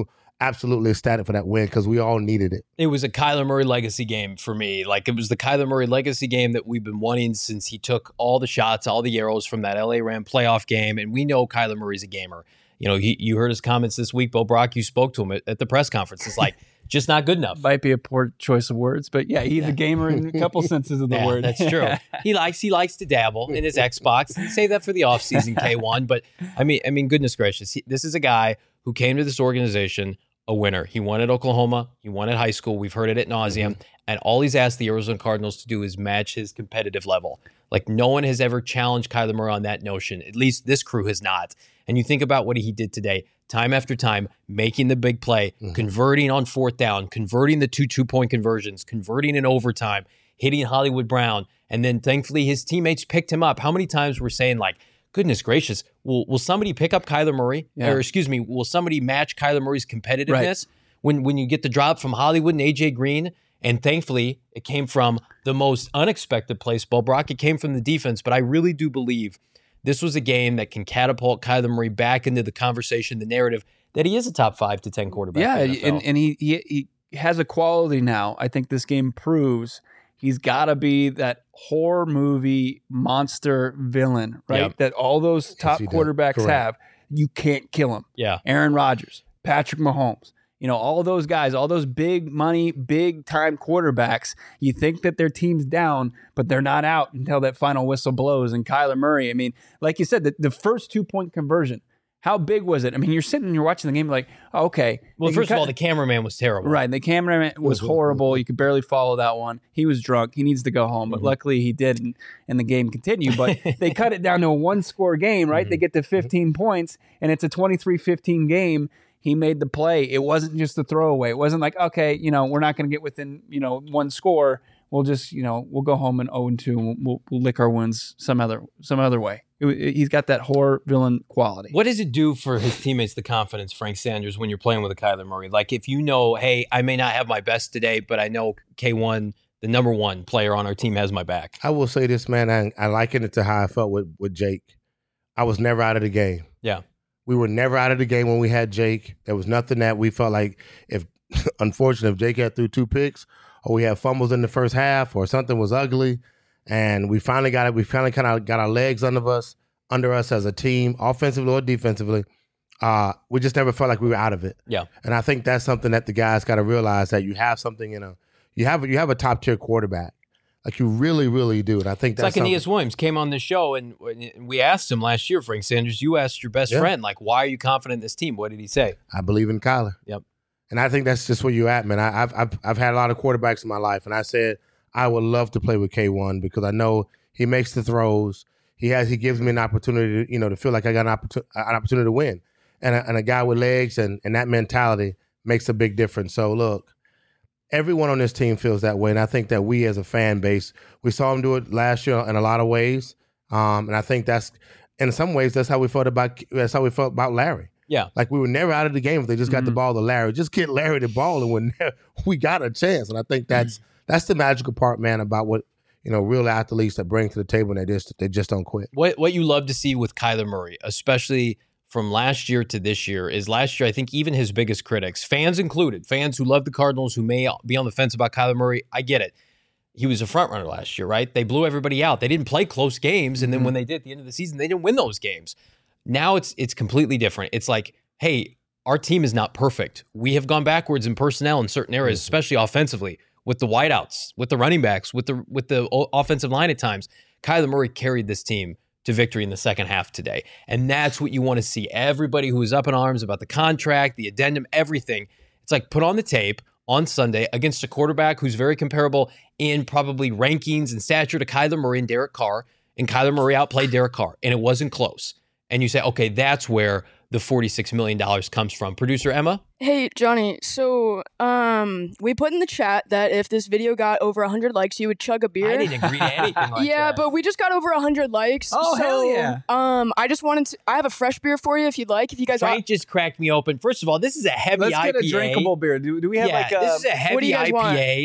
[SPEAKER 3] absolutely ecstatic for that win because we all needed it.
[SPEAKER 1] It was a Kyler Murray legacy game for me. Like, it was the Kyler Murray legacy game that we've been wanting since he took all the shots, all the arrows from that L A Ram playoff game. And we know Kyler Murray's a gamer. You know, he, you heard his comments this week, Bo Brock. You spoke to him at, at the press conference. It's like, just not good enough.
[SPEAKER 2] Might be a poor choice of words, but yeah, he's
[SPEAKER 1] Yeah.
[SPEAKER 2] a gamer in a couple senses of the
[SPEAKER 1] Yeah,
[SPEAKER 2] word.
[SPEAKER 1] that's true. He likes he likes to dabble in his Xbox. Save that for the offseason, K one. But I mean, I mean, goodness gracious, he, this is a guy who came to this organization a winner. He won at Oklahoma. He won at high school. We've heard it ad nauseum. Mm-hmm. And all he's asked the Arizona Cardinals to do is match his competitive level. Like, no one has ever challenged Kyler Murray on that notion. At least this crew has not. And you think about what he did today, time after time, making the big play, mm-hmm. converting on fourth down, converting the two two-point conversions, converting in overtime, hitting Hollywood Brown. And then thankfully his teammates picked him up. How many times we're saying, like, goodness gracious, will will somebody pick up Kyler Murray? Yeah. Or excuse me, will somebody match Kyler Murray's competitiveness right. when, when you get the drop from Hollywood and A J Green? And thankfully, it came from the most unexpected place, Bo Brock. It came from the defense. But I really do believe this was a game that can catapult Kyler Murray back into the conversation, the narrative, that he is a top five to ten quarterback.
[SPEAKER 2] Yeah, and, and he, he he has a quality now. I think this game proves he's got to be that horror movie monster villain, right? Yep. That all those top yes, quarterbacks have. You can't kill him.
[SPEAKER 1] Yeah.
[SPEAKER 2] Aaron Rodgers, Patrick Mahomes. You know, all those guys, all those big money, big time quarterbacks, you think that their team's down, but they're not out until that final whistle blows. And Kyler Murray, I mean, like you said, the, the first two-point conversion, how big was it? I mean, you're sitting and you're watching the game like, oh, okay.
[SPEAKER 1] Well, first of all, the cameraman was terrible.
[SPEAKER 2] Right. The cameraman was horrible. You could barely follow that one. He was drunk. He needs to go home. But mm-hmm. luckily he didn't, and the game continued. But they cut it down to a one-score game, right? Mm-hmm. They get to fifteen points, and it's a twenty-three fifteen game. He made the play. It wasn't just a throwaway. It wasn't like, okay, you know, we're not going to get within, you know, one score. We'll just, you know, we'll go home and oh and two, and we'll, we'll lick our wounds some other some other way. It, it, he's got that horror villain quality.
[SPEAKER 1] What does it do for his teammates, the confidence, Frank Sanders, when you're playing with a Kyler Murray? Like, if you know, hey, I may not have my best today, but I know K one, the number one player on our team, has my back.
[SPEAKER 3] I will say this, man. I, I liken it to how I felt with, with Jake. I was never out of the game.
[SPEAKER 1] Yeah.
[SPEAKER 3] We were never out of the game when we had Jake. There was nothing that we felt like, if unfortunately, if Jake had threw two picks or we had fumbles in the first half or something was ugly, and we finally got it, we finally kind of got our legs under us, under us as a team, offensively or defensively. Uh, we just never felt like we were out of it.
[SPEAKER 1] Yeah,
[SPEAKER 3] and I think that's something that the guys got to realize, that you have something in a, you have you have a top tier quarterback. Like, you really, really do. And I think
[SPEAKER 1] it's
[SPEAKER 3] that's
[SPEAKER 1] like Aeneas Williams came on the show, and we asked him last year, Frank Sanders, you asked your best yeah. friend, like, why are you confident in this team? What did he say?
[SPEAKER 3] I believe in Kyler.
[SPEAKER 1] Yep.
[SPEAKER 3] And I think that's just where you're at, man. I, I've, I've I've had a lot of quarterbacks in my life, and I said I would love to play with K one because I know he makes the throws. He has he gives me an opportunity to, you know, to feel like I got an, opportun- an opportunity to win. And a, and a guy with legs and, and that mentality makes a big difference. So, look, everyone on this team feels that way, and I think that we as a fan base, we saw him do it last year in a lot of ways, um, and I think that's, in some ways, that's how we felt about that's how we felt about Larry.
[SPEAKER 1] Yeah,
[SPEAKER 3] like we were never out of the game if they just got
[SPEAKER 2] mm-hmm.
[SPEAKER 3] the ball to Larry. Just get Larry the ball, and when we got a chance. And I think that's mm-hmm. that's the magical part, man, about what, you know, real athletes that bring to the table, and they just they just don't quit.
[SPEAKER 1] What what you love to see with Kyler Murray, especially from last year to this year, is last year, I think even his biggest critics, fans included, fans who love the Cardinals, who may be on the fence about Kyler Murray, I get it. He was a front runner last year, right? They blew everybody out. They didn't play close games, and then mm-hmm. when they did at the end of the season, they didn't win those games. Now it's it's completely different. It's like, hey, our team is not perfect. We have gone backwards in personnel in certain areas, mm-hmm. especially offensively, with the wideouts, with the running backs, with the with the offensive line at times. Kyler Murray carried this team to victory in the second half today. And that's what you want to see. Everybody who is up in arms about the contract, the addendum, everything. It's like, put on the tape on Sunday against a quarterback who's very comparable in probably rankings and stature to Kyler Murray and Derek Carr. And Kyler Murray outplayed Derek Carr, and it wasn't close. And you say, okay, that's where the forty-six million dollars comes from. Producer Emma?
[SPEAKER 4] Hey, Johnny. So um, we put in the chat that if this video got over one hundred likes, you would chug a beer.
[SPEAKER 1] I didn't agree to anything like
[SPEAKER 4] yeah,
[SPEAKER 1] that.
[SPEAKER 4] but we just got over one hundred likes.
[SPEAKER 2] Oh,
[SPEAKER 4] so,
[SPEAKER 2] hell yeah.
[SPEAKER 4] Um, I just wanted to, I have a fresh beer for you if you'd like. If you guys
[SPEAKER 1] Frank
[SPEAKER 4] want.
[SPEAKER 1] just cracked me open. First of all, this is a heavy
[SPEAKER 2] Let's
[SPEAKER 1] I P A.
[SPEAKER 2] get a drinkable beer. Do, do we have
[SPEAKER 1] yeah,
[SPEAKER 2] like a...
[SPEAKER 1] this is a heavy
[SPEAKER 4] what do you guys
[SPEAKER 1] I P A.
[SPEAKER 4] Want?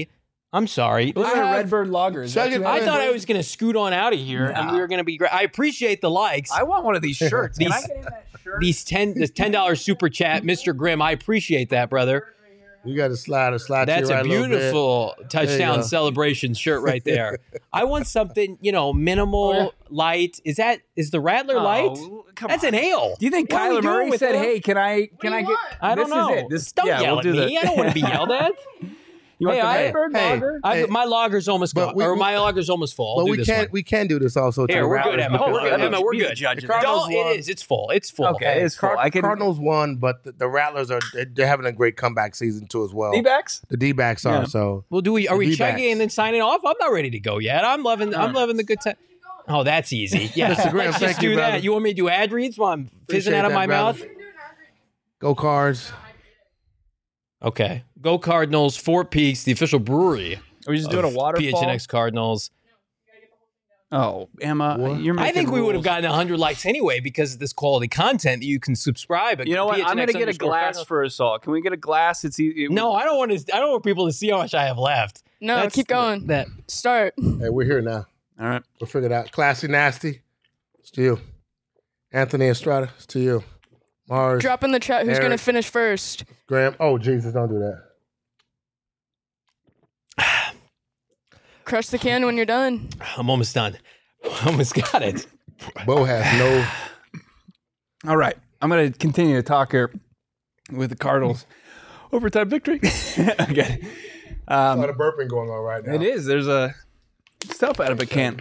[SPEAKER 1] I'm sorry.
[SPEAKER 2] Look
[SPEAKER 3] I
[SPEAKER 2] at a
[SPEAKER 3] have-
[SPEAKER 2] Redbird Lager. Is that
[SPEAKER 3] Chug it
[SPEAKER 2] too
[SPEAKER 1] I
[SPEAKER 2] heavy?
[SPEAKER 1] thought I was going to scoot on out of here, and we were going to be great. I appreciate the likes.
[SPEAKER 2] I want one of these shirts. Can I
[SPEAKER 1] These-
[SPEAKER 2] get in that shirt?
[SPEAKER 1] These ten, this ten dollars super chat, Mister Grimm. I appreciate that, brother.
[SPEAKER 3] You got to slide or slide.
[SPEAKER 1] That's
[SPEAKER 3] to your
[SPEAKER 1] a
[SPEAKER 3] right little bit.
[SPEAKER 1] beautiful touchdown
[SPEAKER 3] go.
[SPEAKER 1] celebration shirt right there. I want something, you know, minimal,
[SPEAKER 2] Oh, yeah.
[SPEAKER 1] light. Is that is the Rattler light?
[SPEAKER 2] Oh, come
[SPEAKER 1] That's
[SPEAKER 2] on.
[SPEAKER 1] an ale.
[SPEAKER 2] Do you think
[SPEAKER 1] What are we
[SPEAKER 2] Kyler
[SPEAKER 1] doing
[SPEAKER 2] Murray
[SPEAKER 1] with
[SPEAKER 2] said,
[SPEAKER 1] it?
[SPEAKER 2] "Hey, can I can
[SPEAKER 4] do
[SPEAKER 2] I
[SPEAKER 4] you
[SPEAKER 2] get?"
[SPEAKER 4] want?
[SPEAKER 1] I don't
[SPEAKER 2] this
[SPEAKER 1] know.
[SPEAKER 2] Is it. This
[SPEAKER 1] Don't
[SPEAKER 2] yeah,
[SPEAKER 1] yell
[SPEAKER 2] we'll
[SPEAKER 1] at
[SPEAKER 2] do
[SPEAKER 1] me.
[SPEAKER 2] the-
[SPEAKER 1] I don't want to be yelled at.
[SPEAKER 2] You want
[SPEAKER 1] Hey,
[SPEAKER 2] the
[SPEAKER 1] I-
[SPEAKER 2] Redbird
[SPEAKER 3] hey,
[SPEAKER 2] Lager?
[SPEAKER 1] I,
[SPEAKER 3] Hey,
[SPEAKER 1] my lager's almost
[SPEAKER 3] but
[SPEAKER 1] gone,
[SPEAKER 3] we-
[SPEAKER 1] or
[SPEAKER 3] we-
[SPEAKER 1] my lager's almost full. I'll
[SPEAKER 3] But
[SPEAKER 1] do
[SPEAKER 3] we
[SPEAKER 1] this
[SPEAKER 3] can
[SPEAKER 1] one.
[SPEAKER 3] we can do this also. to
[SPEAKER 1] Here,
[SPEAKER 3] the
[SPEAKER 1] we're
[SPEAKER 3] Rattlers
[SPEAKER 1] good, Emma.
[SPEAKER 3] because
[SPEAKER 1] Oh, we're good,
[SPEAKER 3] Rattlers-
[SPEAKER 1] Emma. We're
[SPEAKER 2] Be the
[SPEAKER 1] good.
[SPEAKER 2] judge of
[SPEAKER 3] The
[SPEAKER 2] that.
[SPEAKER 3] Cardinals
[SPEAKER 1] Don't. It
[SPEAKER 3] won.
[SPEAKER 1] is. It's full. It's full.
[SPEAKER 2] Okay, it's full.
[SPEAKER 3] Card-
[SPEAKER 2] I can.
[SPEAKER 3] Cardinals won, but the, the Rattlers are they're, they're having a great comeback season too as well.
[SPEAKER 2] D-backs?
[SPEAKER 3] The D-backs are
[SPEAKER 2] Yeah.
[SPEAKER 3] so.
[SPEAKER 1] Well, do we? Are
[SPEAKER 3] The
[SPEAKER 1] we
[SPEAKER 3] D-backs.
[SPEAKER 1] chugging and then signing off? I'm not ready to go yet. I'm loving. I'm loving the good time. Oh, that's easy. Yeah,
[SPEAKER 3] Mister Graham,
[SPEAKER 1] let's
[SPEAKER 3] thank
[SPEAKER 1] just
[SPEAKER 3] you,
[SPEAKER 1] do
[SPEAKER 3] brother.
[SPEAKER 1] that. You want me to do ad reads while I'm fizzing
[SPEAKER 3] Appreciate
[SPEAKER 1] out of
[SPEAKER 3] that,
[SPEAKER 1] my
[SPEAKER 3] brother.
[SPEAKER 1] mouth?
[SPEAKER 3] Go Cards.
[SPEAKER 1] Okay. Go Cardinals. Fort Peaks, the official brewery.
[SPEAKER 2] Are we just doing a
[SPEAKER 1] of
[SPEAKER 2] waterfall?
[SPEAKER 1] P H N X Cardinals.
[SPEAKER 2] Oh, Emma,
[SPEAKER 3] What?
[SPEAKER 2] you're making
[SPEAKER 1] I think we would have
[SPEAKER 2] rules.
[SPEAKER 1] gotten one hundred likes anyway because of this quality content that you can subscribe. At
[SPEAKER 2] You know what? I'm
[SPEAKER 1] going to
[SPEAKER 2] get a glass for us all. Can we get a glass? It's e- it,
[SPEAKER 1] No, I don't want to. I don't want people to see how much I have left.
[SPEAKER 4] No,
[SPEAKER 1] That's-
[SPEAKER 4] keep going.
[SPEAKER 1] That
[SPEAKER 4] Start.
[SPEAKER 3] Hey, we're here now.
[SPEAKER 2] All right.
[SPEAKER 3] We'll figure it out. Classy Nasty. It's to you. Anthony Estrada. It's to you. Mars.
[SPEAKER 4] Drop in the chat who's
[SPEAKER 3] Eric.
[SPEAKER 4] going to finish first.
[SPEAKER 3] Graham. Oh Jesus! Don't do that.
[SPEAKER 4] Crush the can when you're done.
[SPEAKER 1] I'm almost done. Almost got it.
[SPEAKER 3] Bo has no.
[SPEAKER 2] All right. I'm going to continue to talk here with the Cardinals. Overtime victory. Okay.
[SPEAKER 3] A
[SPEAKER 2] Um,
[SPEAKER 3] lot of burping going on right now.
[SPEAKER 2] it is. There's a stuff out of a can.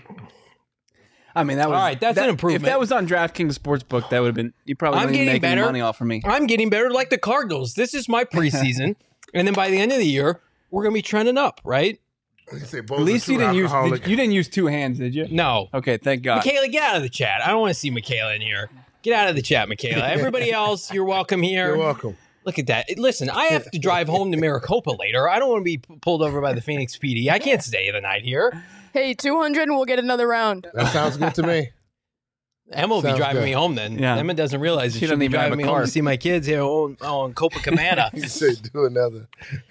[SPEAKER 2] I mean, that was
[SPEAKER 1] All right, that's
[SPEAKER 2] that-
[SPEAKER 1] an improvement.
[SPEAKER 2] If that was on DraftKings Sportsbook, that would have been. You probably
[SPEAKER 1] I'm
[SPEAKER 2] wouldn't even
[SPEAKER 1] getting
[SPEAKER 2] make any
[SPEAKER 1] better.
[SPEAKER 2] money off of me.
[SPEAKER 1] I'm getting better, like the Cardinals. This is my preseason, and then by the end of the year, we're gonna be trending up, right?
[SPEAKER 3] You say Bo's
[SPEAKER 2] At least
[SPEAKER 3] a
[SPEAKER 2] you
[SPEAKER 3] true
[SPEAKER 2] didn't use
[SPEAKER 3] alcoholic.
[SPEAKER 2] did- you didn't use two hands, did you?
[SPEAKER 1] No,
[SPEAKER 2] Okay, thank God.
[SPEAKER 1] Michaela, get out of the chat. I don't want to see Michaela in here. Get out of the chat, Michaela. Everybody else, you're welcome here.
[SPEAKER 3] You're welcome.
[SPEAKER 1] Look at that. Listen, I have to drive home to Maricopa later. I don't want to be p- pulled over by the Phoenix P D. I can't stay the night here.
[SPEAKER 4] Hey, two hundred and we'll get another round.
[SPEAKER 3] That sounds good to me.
[SPEAKER 1] Emma will be
[SPEAKER 3] Sounds
[SPEAKER 1] driving
[SPEAKER 3] good.
[SPEAKER 1] me home then.
[SPEAKER 2] Yeah.
[SPEAKER 1] Emma doesn't realize
[SPEAKER 2] She
[SPEAKER 1] that she'll
[SPEAKER 2] doesn't
[SPEAKER 1] be
[SPEAKER 2] even have
[SPEAKER 1] driving
[SPEAKER 2] a
[SPEAKER 1] me home
[SPEAKER 2] car.
[SPEAKER 1] to see my kids here on, on Copacabana.
[SPEAKER 3] You say do another.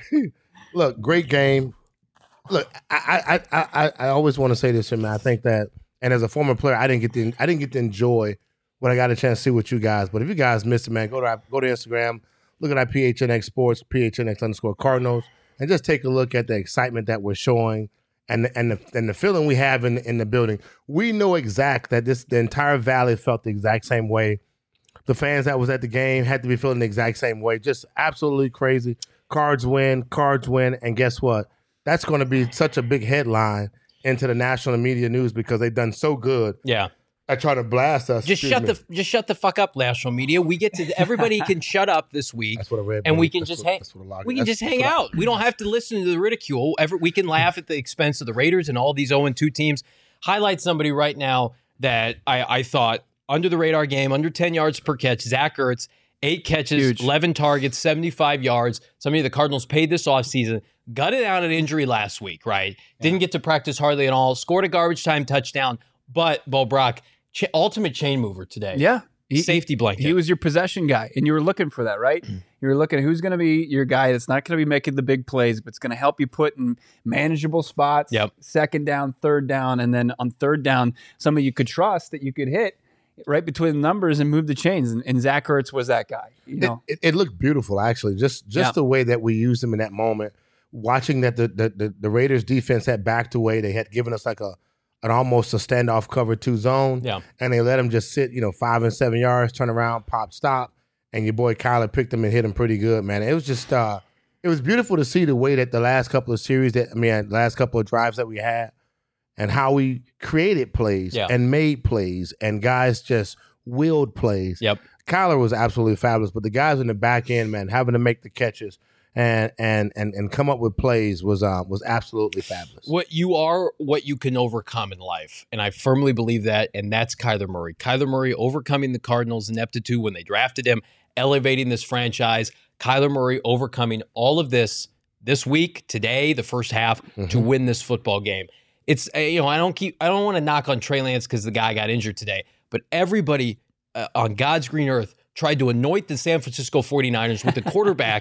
[SPEAKER 3] Look, great game. Look, I I I I, I always want to say this, man. I think that, and as a former player, I didn't get to I didn't get to enjoy what I got a chance to see with you guys. But if you guys missed it, man, go to our, go to Instagram, look at our P H N X Sports, P H N X underscore Cardinals, and just take a look at the excitement that we're showing and the, and the and the feeling we have in in the building. We know exact that this the entire valley felt the exact same way. The fans that was at the game had to be feeling the exact same way. Just absolutely crazy. Cards win, cards win, and guess what? That's going to be such a big headline into the national media news because they've done so good
[SPEAKER 1] Yeah.
[SPEAKER 3] at trying to blast us.
[SPEAKER 1] Just
[SPEAKER 3] Excuse
[SPEAKER 1] shut
[SPEAKER 3] me.
[SPEAKER 1] the just shut the fuck up, national media. We get to everybody can shut up this week,
[SPEAKER 3] That's what I read.
[SPEAKER 1] and
[SPEAKER 3] buddy.
[SPEAKER 1] we can
[SPEAKER 3] That's
[SPEAKER 1] just
[SPEAKER 3] what-
[SPEAKER 1] hang.
[SPEAKER 3] that's what a lot-
[SPEAKER 1] We can
[SPEAKER 3] that's-
[SPEAKER 1] just hang
[SPEAKER 3] that's what I-
[SPEAKER 1] out. We don't have to listen to the ridicule. Ever we can laugh at the expense of the Raiders and all these zero and two teams. Highlight somebody right now that I, I thought under the radar game, under ten yards per catch. Zach Ertz, eight catches,
[SPEAKER 2] Huge.
[SPEAKER 1] eleven targets, seventy-five yards. Somebody the Cardinals paid this offseason. Gutted out an injury last week, right? Didn't get to practice hardly at all. Scored a garbage time touchdown, but Bo Brock, ch- ultimate chain mover today.
[SPEAKER 2] Yeah. He,
[SPEAKER 1] Safety blanket.
[SPEAKER 2] He was your possession guy, and you were looking for that, right? You were looking at who's going to be your guy that's not going to be making the big plays, but it's going to help you put in manageable spots,
[SPEAKER 1] Yep.
[SPEAKER 2] second down, third down, and then on third down, somebody you could trust that you could hit right between the numbers and move the chains. And, and Zach Ertz was that guy. You know,
[SPEAKER 3] It, it, it looked beautiful, actually. Just just
[SPEAKER 2] Yeah.
[SPEAKER 3] the way that we used him in that moment. Watching that the, the the the Raiders defense had backed away, they had given us like a an almost a standoff cover two zone,
[SPEAKER 1] Yeah.
[SPEAKER 3] and they let him just sit, you know, five and seven yards, turn around, pop, stop, and your boy Kyler picked him and hit him pretty good, man. It was just uh, it was beautiful to see the way that the last couple of series that I mean, last couple of drives that we had, and how we created plays
[SPEAKER 1] Yeah.
[SPEAKER 3] and made plays, and guys just willed plays.
[SPEAKER 1] Yep.
[SPEAKER 3] Kyler was absolutely fabulous, but the guys in the back end, man, having to make the catches and and and and come up with plays was uh, was absolutely fabulous.
[SPEAKER 1] What you are, what you can overcome in life. And I firmly believe that. And that's Kyler Murray. Kyler Murray overcoming the Cardinals' ineptitude when they drafted him, elevating this franchise. Kyler Murray overcoming all of this this week, today, the first half, to win this football game. It's, uh, you know, I don't keep, I don't want to knock on Trey Lance because the guy got injured today, but everybody uh, on God's green earth tried to anoint the San Francisco forty-niners with the quarterback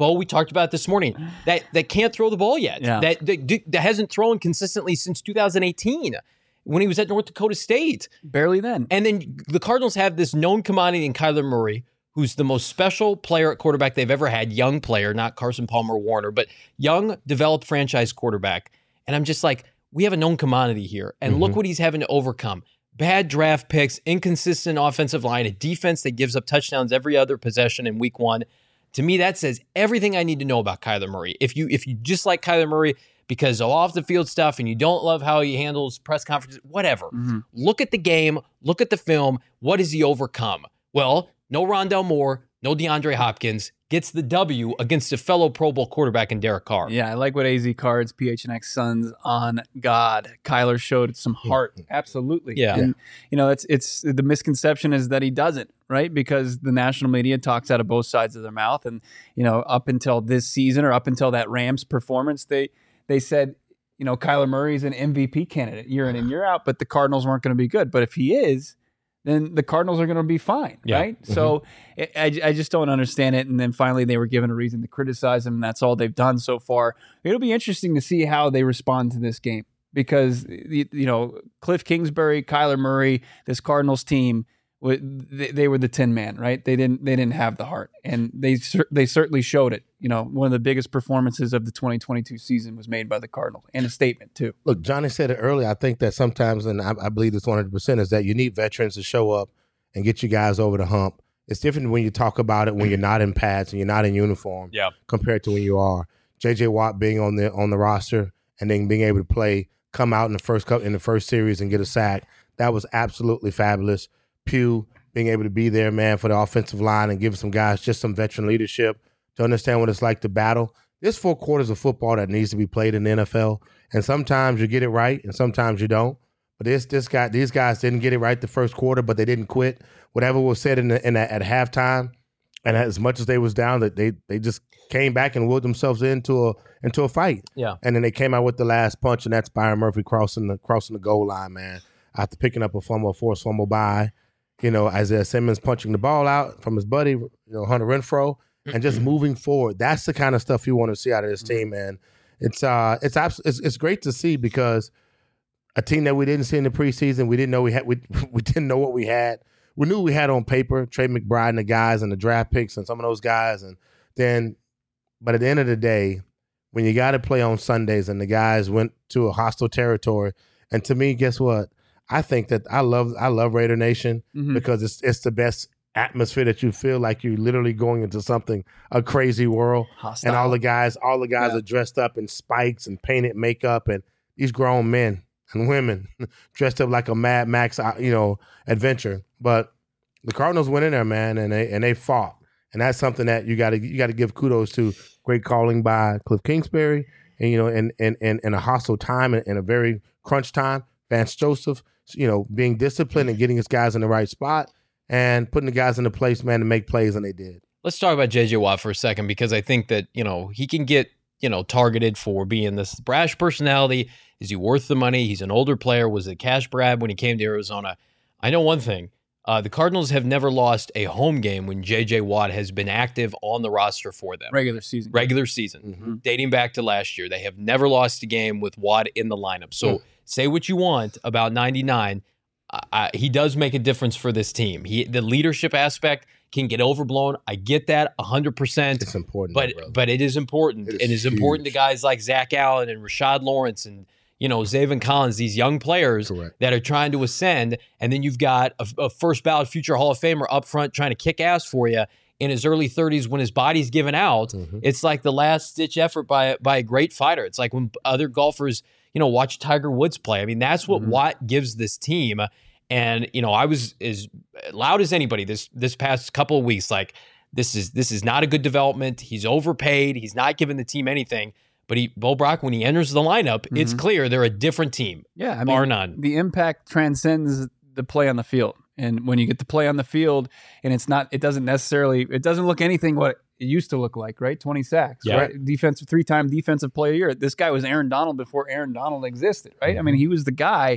[SPEAKER 1] Bo, we talked about this morning, that that can't throw the ball yet.
[SPEAKER 2] Yeah.
[SPEAKER 1] That, that that hasn't thrown consistently since two thousand eighteen when he was at North Dakota State.
[SPEAKER 2] Barely then.
[SPEAKER 1] And then the Cardinals have this known commodity in Kyler Murray, who's the most special player at quarterback they've ever had, young player, not Carson Palmer Warner, but young, developed franchise quarterback. And I'm just like, we have a known commodity here. And
[SPEAKER 3] Mm-hmm.
[SPEAKER 1] look what he's having to overcome. Bad draft picks, inconsistent offensive line, a defense that gives up touchdowns every other possession in week one. To me, that says everything I need to know about Kyler Murray. If you if you just like Kyler Murray because of off-the-field stuff and you don't love how he handles press conferences, whatever.
[SPEAKER 2] Mm-hmm.
[SPEAKER 1] Look at the game. Look at the film. What does he overcome? Well, no Rondell Moore, no DeAndre Hopkins. Gets the W against a fellow Pro Bowl quarterback in Derek Carr.
[SPEAKER 2] Yeah, I like what A Z Cards, P H N X Sons on God. Kyler showed some heart. Absolutely.
[SPEAKER 1] Yeah.
[SPEAKER 2] And, you know, it's it's the misconception is that he doesn't, right? Because the national media talks out of both sides of their mouth. And, you know, up until this season or up until that Rams performance, they they said, you know, Kyler Murray's an M V P candidate year in and year out, but the Cardinals weren't going to be good. But if he is, then the Cardinals are going to be fine,
[SPEAKER 1] Yeah.
[SPEAKER 2] right? Mm-hmm. So I, I just don't understand it. And then finally they were given a reason to criticize him, and that's all they've done so far. It'll be interesting to see how they respond to this game because, you know, Cliff Kingsbury, Kyler Murray, this Cardinals team, they, they were the tin man, right? They didn't they didn't have the heart, and they they certainly showed it. You know, one of the biggest performances of the twenty twenty-two season was made by the Cardinals, and a statement too.
[SPEAKER 3] Look, Johnny said it earlier. I think that sometimes, and I, I believe it's one hundred percent, is that you need veterans to show up and get you guys over the hump. It's different when you talk about it when you're not in pads and you're not in uniform
[SPEAKER 1] Yeah.
[SPEAKER 3] compared to when you are. J J Watt being on the on the roster and then being able to play, come out in the first cup in the first series and get a sack. That was absolutely fabulous. Pugh being able to be there, man, for the offensive line and give some guys just some veteran leadership to understand what it's like to battle. There's four quarters of football that needs to be played in the N F L, and sometimes you get it right and sometimes you don't. But this this guy, these guys didn't get it right the first quarter, but they didn't quit. Whatever was said in the, in the, at halftime, and as much as they was down, that they they just came back and willed themselves into a into a fight.
[SPEAKER 1] Yeah.
[SPEAKER 3] And then they came out with the last punch, and that's Byron Murphy crossing the crossing the goal line, man. After picking up a fumble, a forced fumble by, you know, Isaiah Simmons punching the ball out from his buddy, you know, Hunter Renfrow, and just moving forward. That's the kind of stuff you want to see out of this team, man. It's uh, it's abs- it's, it's great to see because a team that we didn't see in the preseason, we didn't know we had, we we didn't know what we had. We knew we had on paper Trey McBride and the guys and the draft picks and some of those guys, and then, but at the end of the day, when you got to play on Sundays and the guys went to a hostile territory, and to me, guess what? I think that I love I love Raider Nation
[SPEAKER 2] Mhm.
[SPEAKER 3] because it's it's the best atmosphere that you feel like you're literally going into something, a crazy world.
[SPEAKER 2] Hostile.
[SPEAKER 3] And all the guys, all the guys
[SPEAKER 2] Yeah.
[SPEAKER 3] are dressed up in spikes and painted makeup, and these grown men and women dressed up like a Mad Max, uh, you know, adventure. But the Cardinals went in there, man, and they and they fought, and that's something that you got to you got to give kudos to. Great calling by Cliff Kingsbury, and you know, in in in, in a hostile time and in a very crunch time, Vance Joseph, you know, being disciplined and getting his guys in the right spot and putting the guys in the place, man, to make plays, and they did.
[SPEAKER 1] Let's talk about J J Watt for a second because I think that, you know, he can get, you know, targeted for being this brash personality. Is he worth the money? He's an older player. Was it cash grab when he came to Arizona? I know one thing. Uh, the Cardinals have never lost a home game when J J Watt has been active on the roster for them.
[SPEAKER 2] regular season.
[SPEAKER 1] Regular season,
[SPEAKER 3] Mm-hmm.
[SPEAKER 1] dating back to last year. They have never lost a game with Watt in the lineup. So
[SPEAKER 3] Mm.
[SPEAKER 1] say what you want about ninety-nine. I, I, he does make a difference for this team. He The leadership aspect can get overblown. I get that one hundred percent.
[SPEAKER 3] It's important,
[SPEAKER 1] But
[SPEAKER 3] though, brother.
[SPEAKER 1] but it is important.
[SPEAKER 3] It is
[SPEAKER 1] It is important to
[SPEAKER 3] huge.
[SPEAKER 1] guys like Zach Allen and Rashad Lawrence and, you know, Zaven Collins, these young players
[SPEAKER 3] Correct.
[SPEAKER 1] that are trying to ascend. And then you've got a, a first ballot future Hall of Famer up front trying to kick ass for you in his early thirties when his body's given out.
[SPEAKER 3] Mhm.
[SPEAKER 1] It's like the last ditch effort by, by a great fighter. It's like when other golfers, you know, watch Tiger Woods play. I mean, that's what
[SPEAKER 2] Mhm.
[SPEAKER 1] Watt gives this team. And, you know, I was as loud as anybody this this past couple of weeks, like, this is this is not a good development. He's overpaid. He's not giving the team anything. But he, Bo Brock, when he enters the lineup, it's
[SPEAKER 2] Mhm.
[SPEAKER 1] clear they're a different team,
[SPEAKER 2] Yeah, I mean,
[SPEAKER 1] bar none.
[SPEAKER 2] the impact transcends the play on the field. And when you get to play on the field and it's not, it doesn't necessarily, it doesn't look anything what it used to look like, right? twenty sacks,
[SPEAKER 1] Yeah.
[SPEAKER 2] right? Defensive, three-time defensive player of the year. This guy was Aaron Donald before Aaron Donald existed, right? I mean, he was the guy.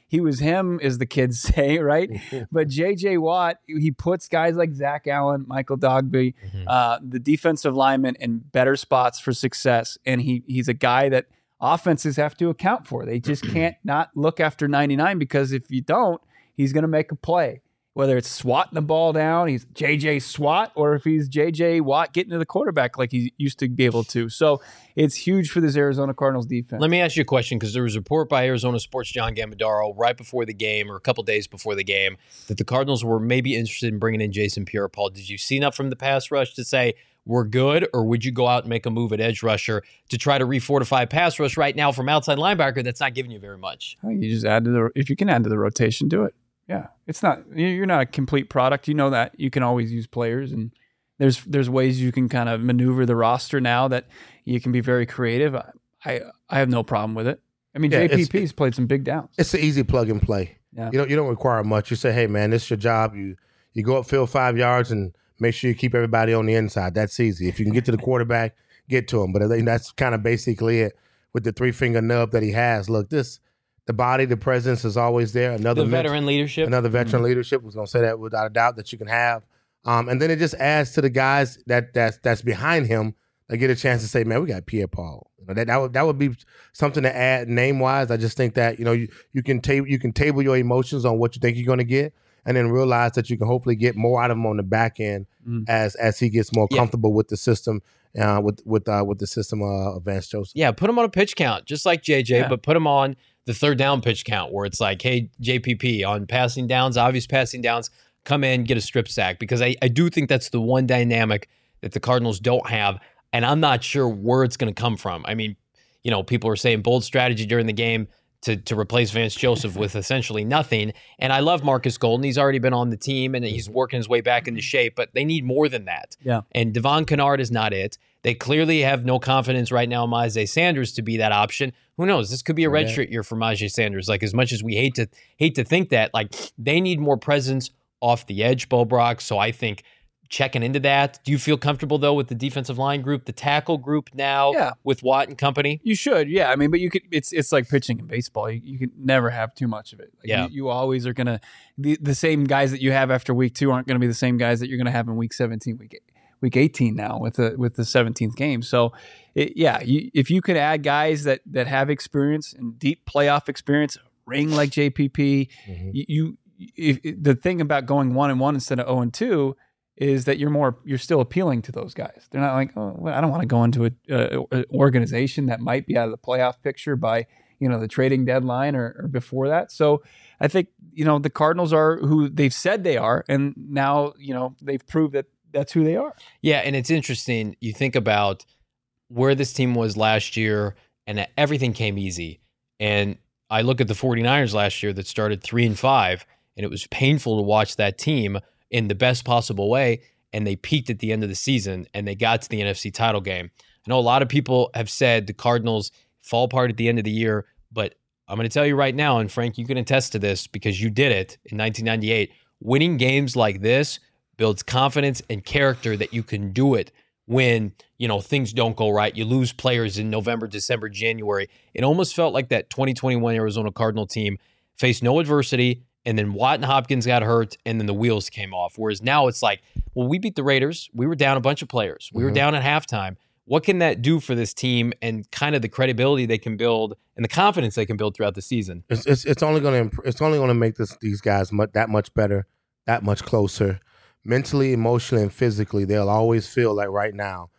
[SPEAKER 2] he was him, as the kids say, right? But J J Watt, he puts guys like Zach Allen, Michael Dogby, mm-hmm. uh, the defensive linemen in better spots for success. And he he's a guy that offenses have to account for. They just can't not look after ninety-nine, because if you don't, he's going to make a play. Whether it's swatting the ball down, he's J J Swat, or if he's J J Watt getting to the quarterback like he used to be able to. So it's huge for this Arizona Cardinals defense.
[SPEAKER 1] Let me ask you a question, because there was a report by Arizona Sports' John Gambadaro right before the game, or a couple days before the game, that the Cardinals were maybe interested in bringing in Jason Pierre-Paul. Did you see enough from the pass rush to say we're good, or would you go out and make a move at edge rusher to try to refortify pass rush right now from outside linebacker that's not giving you very much?
[SPEAKER 2] I think you just add to the, if you can add to the rotation, do it. Yeah, it's not, you're not a complete product. You know that. You can always use players, and there's there's ways you can kind of maneuver the roster now that you can be very creative. I I, I have no problem with it. I mean, yeah, J P P's played some big downs.
[SPEAKER 3] It's an easy plug and play. Yeah. You don't you don't require much. You say, hey man, this is your job. You you go upfield five yards and make sure you keep everybody on the inside. That's easy. If you can get to the quarterback, get to him. But I think that's kind of basically it with the three finger nub that he has. Look, this. The body, the presence is always there. Another
[SPEAKER 1] the veteran
[SPEAKER 3] mentor,
[SPEAKER 1] leadership.
[SPEAKER 3] Another veteran mm-hmm. leadership. We're going to say that without a doubt that you can have. Um, and then it just adds to the guys that that's, that's behind him. They get a chance to say, man, we got Pierre-Paul. You know, that, that, would, that would be something to add name-wise. I just think that, you know, you, you, can table, you can table your emotions on what you think you're going to get, and then realize that you can hopefully get more out of him on the back end mm-hmm. as as he gets more yeah. comfortable with the system. Uh, with with uh, with the system uh, of Vance Joseph.
[SPEAKER 1] Yeah, put him on a pitch count, just like J J, yeah. but put him on the third down pitch count, where it's like, hey, J P P, on passing downs, obvious passing downs, come in, get a strip sack. Because I, I do think that's the one dynamic that the Cardinals don't have, and I'm not sure where it's going to come from. I mean, you know, people are saying bold strategy during the game to to replace Vance Joseph with essentially nothing. And I love Marcus Golden. He's already been on the team, and he's working his way back into shape, but they need more than that.
[SPEAKER 2] Yeah.
[SPEAKER 1] And Devon Kennard is not it. They clearly have no confidence right now in Myjai Sanders to be that option. Who knows? This could be a redshirt year for Myjai Sanders. Like, as much as we hate to hate to think that, like, they need more presence off the edge, Bo Brock. So I think checking into that. Do you feel comfortable, though, with the defensive line group, the tackle group now
[SPEAKER 2] yeah.
[SPEAKER 1] with Watt and company?
[SPEAKER 2] You should, yeah. I mean, but you could. It's it's like pitching in baseball. You, you can never have too much of it. Like
[SPEAKER 1] yeah.
[SPEAKER 2] You, you always are gonna the the same guys that you have after week two aren't going to be the same guys that you're going to have in week seventeen, week eight. Week eighteen now with the with the seventeenth game. So, it, yeah, you, if you could add guys that that have experience and deep playoff experience, ring like J P P, mm-hmm. you, you if, the thing about going one and one instead of zero and two is that you're more you're still appealing to those guys. They're not like, oh, well, I don't want to go into an organization that might be out of the playoff picture by you know the trading deadline or, or before that. So, I think you know the Cardinals are who they've said they are, and now you know they've proved that. That's who they are.
[SPEAKER 1] Yeah, and it's interesting. You think about where this team was last year, and everything came easy. And I look at the 49ers last year that started three and five, and it was painful to watch that team in the best possible way. And they peaked at the end of the season, and they got to the N F C title game. I know a lot of people have said the Cardinals fall apart at the end of the year, but I'm going to tell you right now, and Frank, you can attest to this because you did it in nineteen ninety-eight. Winning games like this builds confidence and character that you can do it when, you know, things don't go right. You lose players in November, December, January. It almost felt like that twenty twenty-one Arizona Cardinal team faced no adversity, and then Watt and Hopkins got hurt, and then the wheels came off. Whereas now it's like, well, we beat the Raiders. We were down a bunch of players. We mm-hmm. were down at halftime. What can that do for this team and kind of the credibility they can build and the confidence they can build throughout the season?
[SPEAKER 3] It's it's, it's only going to it's only going to make this these guys much, that much better, that much closer. Mentally, emotionally, and physically, they'll always feel like right now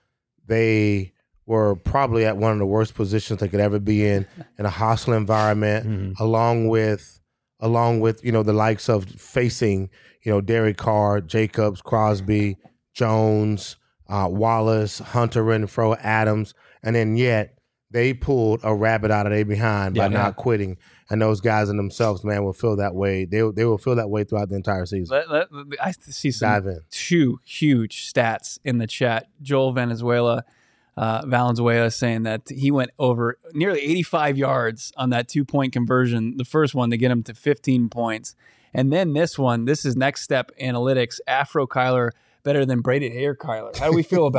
[SPEAKER 3] they were probably at one of the worst positions they could ever be in, in a hostile environment, mm-hmm. along with, along with you know the likes of facing you know Derek Carr, Jacobs, Crosby, Jones, uh, Wallace, Hunter Renfrow, Adams, and then yet they pulled a rabbit out of their behind by yeah, not yeah. quitting. And those guys in themselves, man, will feel that way. They they will feel that way throughout the entire season.
[SPEAKER 2] Let, let, I see some two huge stats in the chat. Joel Valenzuela, uh, Valenzuela saying that he went over nearly eighty-five yards on that two-point conversion, the first one to get him to fifteen points. And then this one, this is Next Step Analytics, Afro Kyler better than braided hair Kyler. How do we feel about that?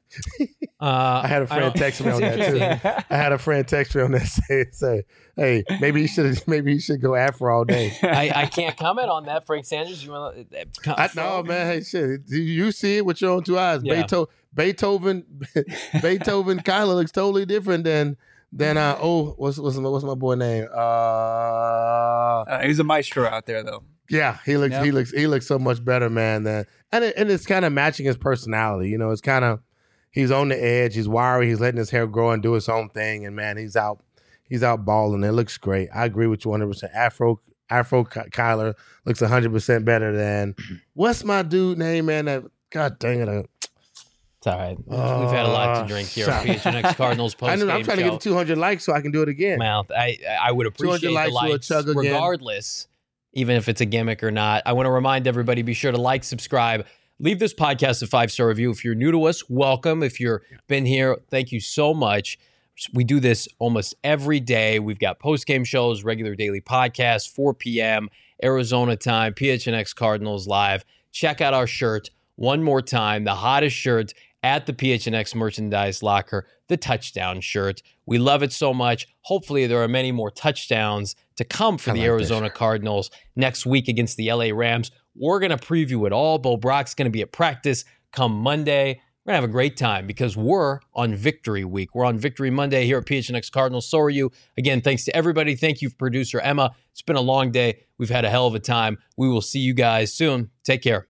[SPEAKER 1] Uh,
[SPEAKER 3] I had a friend
[SPEAKER 1] don't-
[SPEAKER 3] text me on that
[SPEAKER 1] It's
[SPEAKER 3] too.
[SPEAKER 1] interesting.
[SPEAKER 3] I had a friend text me on that say, say hey, maybe he should maybe he should go afro all day.
[SPEAKER 1] I, I can't comment on that, Frank Sanders. You want to?
[SPEAKER 3] I know, man. Hey, shit. You- You see it with your own two eyes.
[SPEAKER 1] Yeah.
[SPEAKER 3] Beethoven, Beethoven, Beethoven, Kyler looks totally different than than uh oh what's what's my, what's my boy name? Uh,
[SPEAKER 2] Uh, he's a maestro out there, though.
[SPEAKER 3] yeah, he looks
[SPEAKER 2] Yep.
[SPEAKER 3] he looks he looks so much better, man. Than and it, and it's kind of matching his personality. You know, it's kind of he's on the edge. He's wiry. He's letting his hair grow and do his own thing. And man, he's out he's out balling. It looks great. I agree with you one hundred percent. Afro Afro Ky- Kyler looks one hundred percent better than what's my dude name, man? That God dang it. I,
[SPEAKER 1] It's all right. We've had a lot to
[SPEAKER 3] Uh,
[SPEAKER 1] drink here.
[SPEAKER 3] shut-
[SPEAKER 1] P H N X Cardinals
[SPEAKER 3] I
[SPEAKER 1] post
[SPEAKER 3] know,
[SPEAKER 1] game
[SPEAKER 3] I'm trying
[SPEAKER 1] show.
[SPEAKER 3] to get to two hundred likes so I can do it again.
[SPEAKER 1] Mouth. I I would appreciate the
[SPEAKER 3] likes, we'll
[SPEAKER 1] likes
[SPEAKER 3] chug again.
[SPEAKER 1] regardless, even if it's a gimmick or not. I want to remind everybody: be sure to like, subscribe, leave this podcast a five star review. If you're new to us, welcome. If you've been here, thank you so much. We do this almost every day. We've got post game shows, regular daily podcasts, four p.m. Arizona time, P H N X Cardinals live. Check out our shirt one more time. The hottest shirt at the P H N X merchandise locker, the touchdown shirt. We love it so much. Hopefully there are many more touchdowns to come for
[SPEAKER 3] I
[SPEAKER 1] the
[SPEAKER 3] like that
[SPEAKER 1] Arizona
[SPEAKER 3] shirt.
[SPEAKER 1] Cardinals next week against the L A Rams. We're going to preview it all. Bo Brock's going to be at practice come Monday. We're going to have a great time because we're on Victory Week. We're on Victory Monday here at P H N X Cardinals. So are you. Again, thanks to everybody. Thank you, producer Emma. It's been a long day. We've had a hell of a time. We will see you guys soon. Take care.